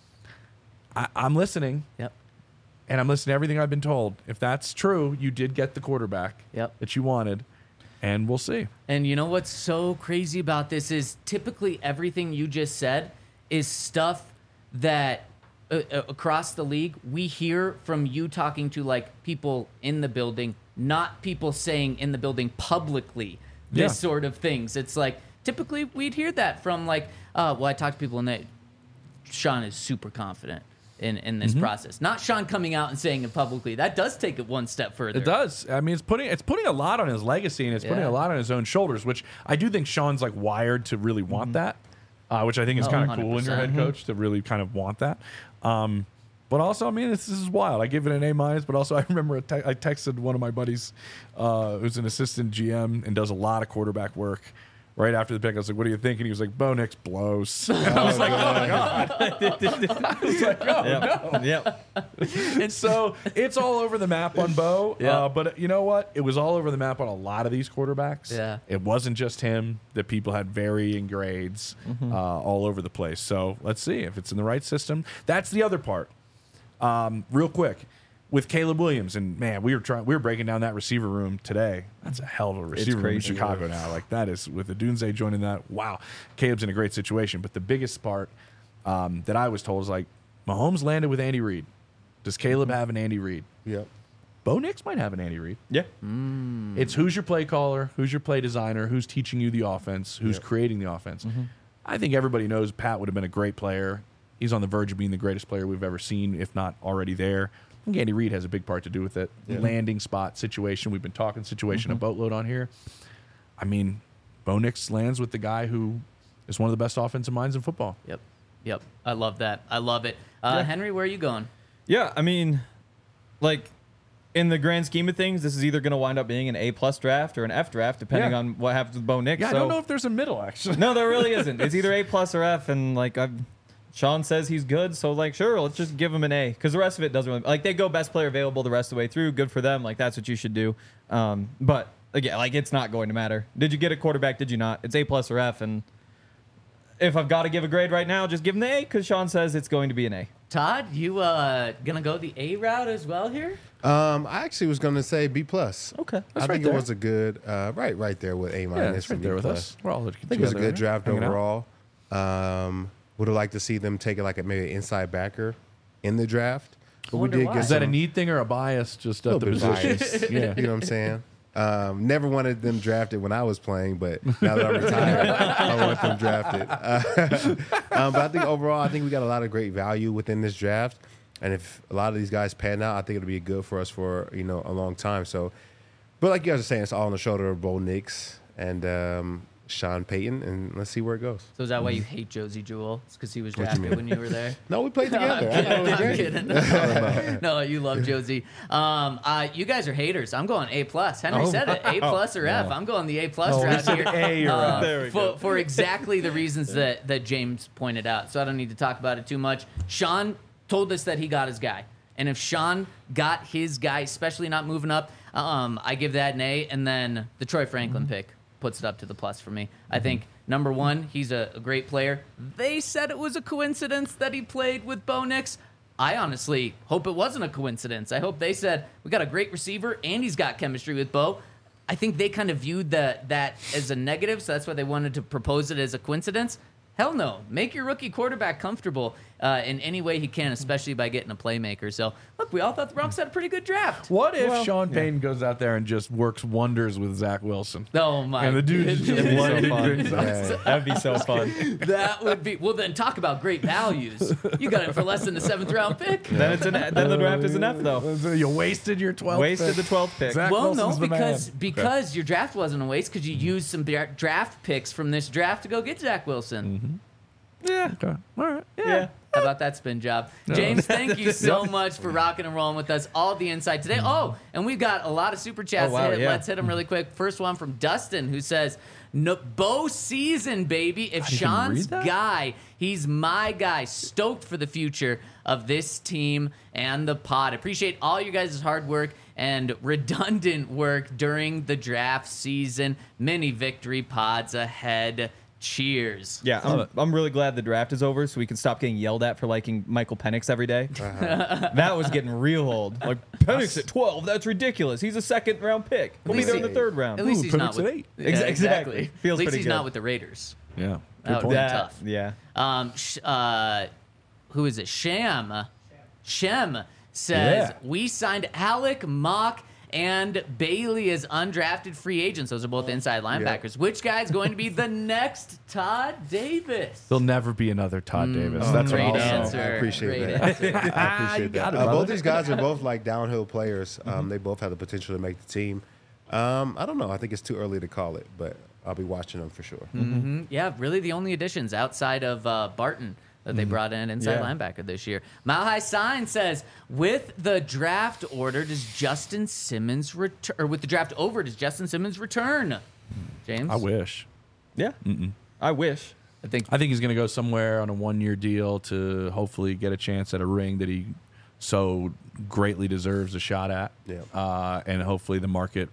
I'm listening. Yep. And I'm listening to everything I've been told. If that's true, you did get the quarterback Yep. that you wanted. And we'll see. And you know what's so crazy about this is typically everything you just said is stuff that across the league we hear from you talking to like people in the building, not people saying in the building publicly this Yeah. sort of things. It's like typically we'd hear that from like, well, I talk to people and they, Sean is super confident in this process. Not Sean coming out and saying it publicly. That does take it one step further. It does. I mean, it's putting a lot on his legacy and it's putting Yeah. a lot on his own shoulders, which I do think Sean's like wired to really want that, which I think is Oh, kind of cool in your 100%. head coach to really kind of want that. But also, I mean, this is wild. I give it an A-, but also I remember I texted one of my buddies who's an assistant GM and does a lot of quarterback work. Right after the pick, I was like, "What do you think?" And he was like, "Bo Nix blows." And I was like, "Oh god!" I was like, "Oh no!" Yep. And so it's all over the map on Bo. Yeah. But you know what? It was all over the map on a lot of these quarterbacks. Yeah. It wasn't just him. That people had varying grades all over the place. So let's see if it's in the right system. That's the other part. Real quick. With Caleb Williams, and man, we were breaking down that receiver room today. That's a hell of a receiver room in crazy. Chicago now. Like that is with Odunze joining that. Wow, Caleb's in a great situation. But the biggest part that I was told is like Mahomes landed with Andy Reid. Does Caleb have an Andy Reid? Yep. Bo Nix might have an Andy Reid. Yeah. It's who's your play caller, who's your play designer, who's teaching you the offense, who's creating the offense. I think everybody knows Pat would have been a great player. He's on the verge of being the greatest player we've ever seen, if not already there. I think Andy Reid has a big part to do with it. Landing spot situation. We've been talking situation a boatload on here. I mean, Bo Nix lands with the guy who is one of the best offensive minds in football. Yep. I love that. I love it. Henry, where are you going? Yeah, I mean, like, in the grand scheme of things, this is either going to wind up being an A+ draft or an F draft, depending Yeah. on what happens with Bo Nix. Yeah, I So- don't know if there's a middle, actually. No, there really isn't. It's either A+ or F, and like Sean says he's good, so like sure, let's just give him an A because the rest of it doesn't really like they go best player available the rest of the way through. Good for them. Like that's what you should do. But again, like it's not going to matter. Did you get a quarterback? Did you not? It's A+ or F, and if I've got to give a grade right now, just give him the A because Sean says it's going to be an A. Todd, you gonna go the A route as well here? I actually was going to say B+. Okay. I think it was a good, right there with A-. Yeah, it's and right there B+. with us. We're all I think it was a good draft hanging out. overall. Would have liked to see them take like maybe an inside backer in the draft. But we Wonder did why. get Is that a some- need thing or a bias just at little the bit position? biased. Yeah. You know what I'm saying? Never wanted them drafted when I was playing, but now that I'm retired, I want them drafted. But I think overall, I think we got a lot of great value within this draft. And if a lot of these guys pan out, I think it'll be good for us for a long time. So, but like you guys are saying, it's all on the shoulder of Bo Nix and Sean Payton, and let's see where it goes. So is that why you hate Josie Jewell? It's because he was What you drafted mean? when you were there? No, we played together. I thought it was I'm great. kidding. No, you love Josie. You guys are haters. I'm going A+. Henry said it. A+ or F. I'm going the A+ draft here. A or F. There we go. For exactly the reasons that James pointed out. So I don't need to talk about it too much. Sean told us that he got his guy. And if Sean got his guy, especially not moving up, I give that an A. And then the Troy Franklin pick puts it up to the plus for me. I think, number one, he's a great player. They said it was a coincidence that he played with Bo Nix. I honestly hope it wasn't a coincidence. I hope they said, we got a great receiver and he's got chemistry with Bo. I think they kind of viewed that as a negative, so that's why they wanted to propose it as a coincidence. Hell no. Make your rookie quarterback comfortable in any way he can, especially by getting a playmaker. So, look, we all thought the Bronx had a pretty good draft. What if Sean Payton goes out there and just works wonders with Zach Wilson? Oh, my And the dude is goodness. just one so fun. big size. Yeah. That'd be so fun. That would be... Well, then talk about great values. You got it for less than the 7th-round pick. Then the draft is an F though. So you wasted your 12th Wasted pick. the 12th pick. Zach Well, no, Wilson's the man. because your draft wasn't a waste because you used some draft picks from this draft to go get Zach Wilson. Yeah. Okay. All right. Yeah. How about that spin job? James, thank you so much for rocking and rolling with us. All the insight today. Oh, and we've got a lot of super chats Oh, wow, to hit. yeah. Let's hit them really quick. First one from Dustin, who says, no, Bo season, baby. If you can Sean's read that? guy, he's my guy. Stoked for the future of this team and the pod. Appreciate all you guys' hard work and redundant work during the draft season. Many victory pods ahead. Cheers. Yeah, I'm really glad the draft is over so we can stop getting yelled at for liking Michael Penix every day. That was getting real old. Like, Penix at 12, that's ridiculous. He's a second-round pick. He'll be there in the third round. At least Ooh, he's not Penix with at 8. Yeah, Exactly. Feels At least pretty he's good. not with the Raiders. Yeah. That would be tough. Yeah. Who is it? Shem says, Yeah. we signed Alec Mock and Bailey as undrafted free agents. Those are both inside linebackers. Which guy's going to be the next Todd Davis? There'll never be another Todd Davis. That's what Great I'll say. answer. I appreciate Great that. answer. I appreciate you got that. it, brother. Both these guys are both like downhill players. They both have the potential to make the team. I don't know. I think it's too early to call it, but I'll be watching them for sure. Yeah, really the only additions outside of Barton that they brought in inside linebacker this year. Mile High Sign says, with the draft order, does Justin Simmons return? Or with the draft over, does Justin Simmons return? James? I wish. Yeah. I wish. I think I think he's going to go somewhere on a 1-year deal to hopefully get a chance at a ring that he so greatly deserves a shot at. Yeah. And hopefully the market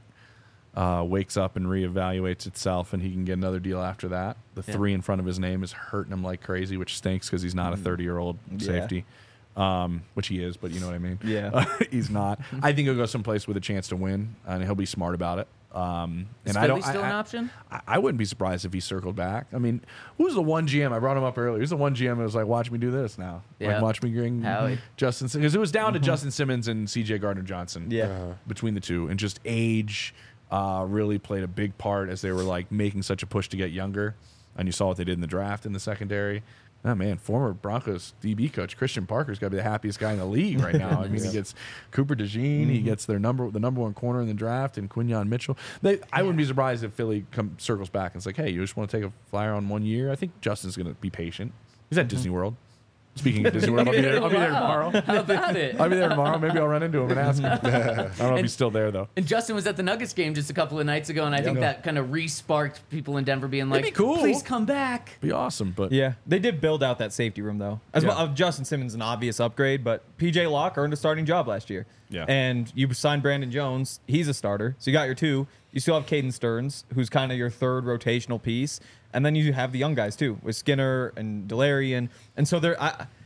wakes up and reevaluates itself and he can get another deal after that. The 3 in front of his name is hurting him like crazy, which stinks because he's not a 30-year-old safety, which he is, but you know what I mean? Yeah. He's not. I think he'll go someplace with a chance to win, and he'll be smart about it. And is I Philly don't. still an option? I wouldn't be surprised if he circled back. I mean, who's the one GM? I brought him up earlier. Who's the one GM that was like, watch me do this now? Yeah. Like, watch me bring Howie. Justin. Because it was down to Justin Simmons and CJ Gardner-Johnson. Yeah. Between the two. And just age really played a big part as they were like making such a push to get younger. And you saw what they did in the draft in the secondary. Oh, man, former Broncos DB coach Christian Parker's got to be the happiest guy in the league right now. I mean, he gets Cooper DeJean, he gets the number one corner in the draft, and Quinyon Mitchell. I wouldn't be surprised if Philly circles back and it's like, hey, you just want to take a flyer on 1 year? I think Justin's going to be patient. He's at Disney World. Speaking of Disney World, I'll be there tomorrow. How about it? I'll be there tomorrow. Maybe I'll run into him and ask him. I don't know if he's still there, though. And Justin was at the Nuggets game just a couple of nights ago, and I think that kind of re-sparked people in Denver being like, be cool. please come back. Be awesome, but Yeah, they did build out that safety room though. Justin Simmons an obvious upgrade, but PJ Locke earned a starting job last year. Yeah. And you signed Brandon Jones. He's a starter, so you got your 2. You still have Caden Stearns, who's kind of your 3rd rotational piece, and then you have the young guys too with Skinner and Delarian, and so they're.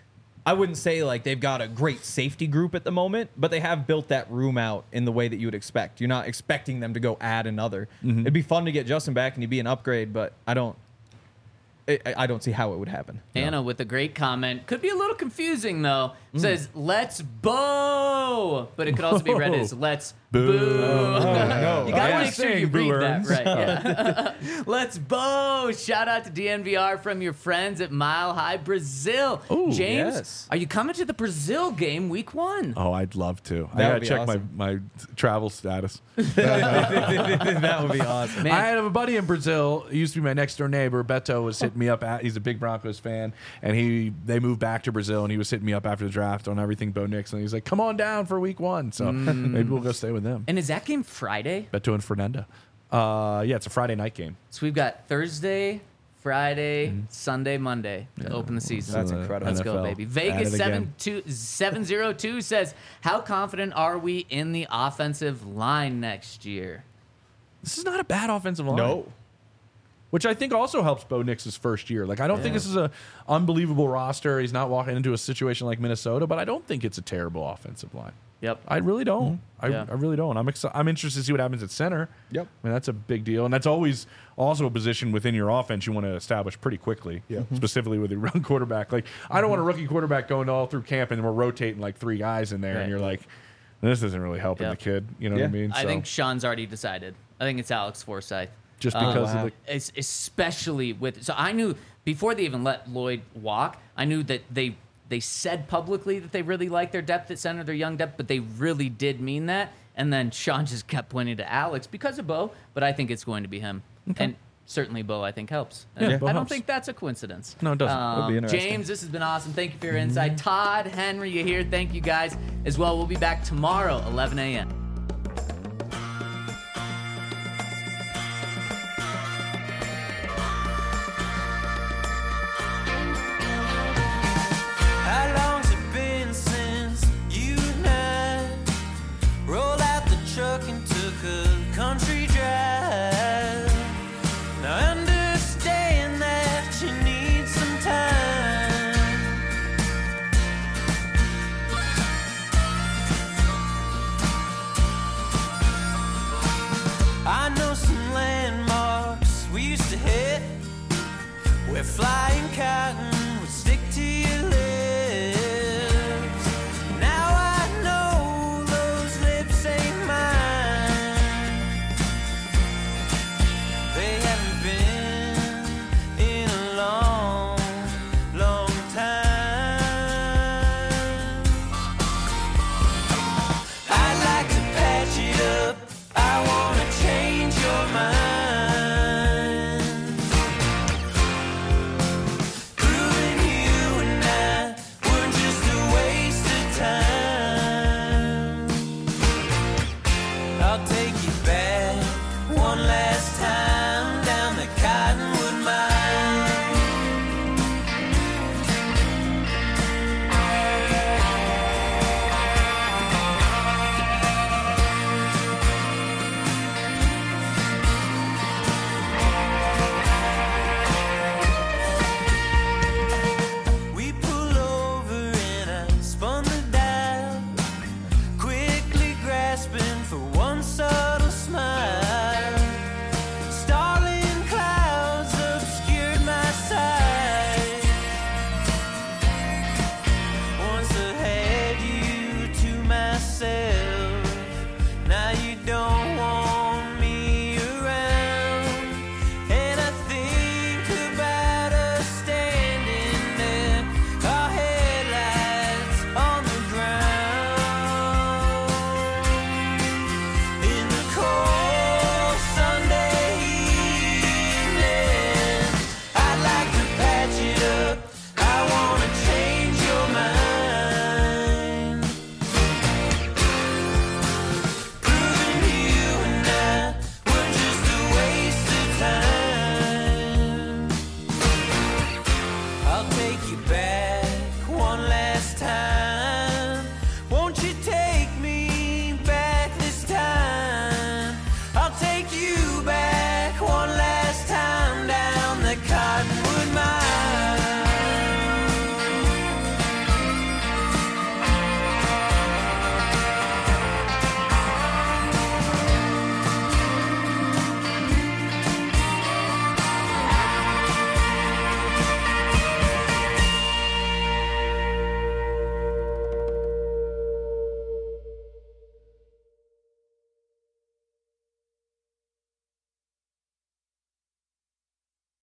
I wouldn't say like they've got a great safety group at the moment, but they have built that room out in the way that you would expect. You're not expecting them to go add another. It'd be fun to get Justin back and he'd be an upgrade, but I don't see how it would happen. Anna with a great comment. Could be a little confusing, though. Says, let's bow. But it could also be read as let's boo. No. You got to Yeah. make sure you Saying boo read that earns. right. Yeah. Let's bow. Shout out to DNVR from your friends at Mile High Brazil. Ooh, James, yes. are you coming to the Brazil game week 1? oh, I'd love to. I That got would to be check awesome. my travel status. That would be awesome. Man. I have a buddy in Brazil. He used to be my next door neighbor. Beto was hitting me up. He's a big Broncos fan, and they moved back to Brazil, and he was hitting me up after the draft on everything Bo Nix, and he's like, "Come on down for week 1." So maybe we'll go stay with them. And is that game Friday? Beto and Fernanda. Yeah, it's a Friday night game. So we've got Thursday, Friday, Sunday, Monday to open the season. That's incredible. Let's go, NFL. baby. At Vegas it again. 702 says, how confident are we in the offensive line next year? This is not a bad offensive line. No. Which I think also helps Bo Nix's first year. Like, I don't think this is a unbelievable roster. He's not walking into a situation like Minnesota, but I don't think it's a terrible offensive line. Yep. I really don't. Yeah. I really don't. I'm interested to see what happens at center. Yep. I mean, that's a big deal, and that's always also a position within your offense you want to establish pretty quickly. Yeah. Specifically with a run quarterback. Like, I don't want a rookie quarterback going all through camp and we're rotating like 3 guys in there, Right. and you're like, this isn't really helping Yep. the kid. You know what I Yeah. mean? I So, think Sean's already decided. I think it's Alex Forsythe. just because wow. of the Especially with, so I knew before they even let Lloyd walk, I knew that they said publicly that they really like their depth at center, their young depth, but they really did mean that. And then Sean just kept pointing to Alex because of Bo, but I think it's going to be him. And certainly Bo, I think, helps. Yeah, Bo I don't helps. think that's a coincidence. No, it doesn't. Would be interesting. James, this has been awesome. Thank you for your insight. Todd, Henry, you here. Thank you guys as well. We'll be back tomorrow, 11 a.m. How long's it been since you and I rolled out the a country drive. Now understand that you need some time. I know some landmarks we used to hit, where flying cotton would stick to your lips. Now I know those lips ain't mine. They haven't been in a long, long time. I'd like to patch it up. I wanna change your mind. Proving you and I were just a waste of time. I'll take you back one last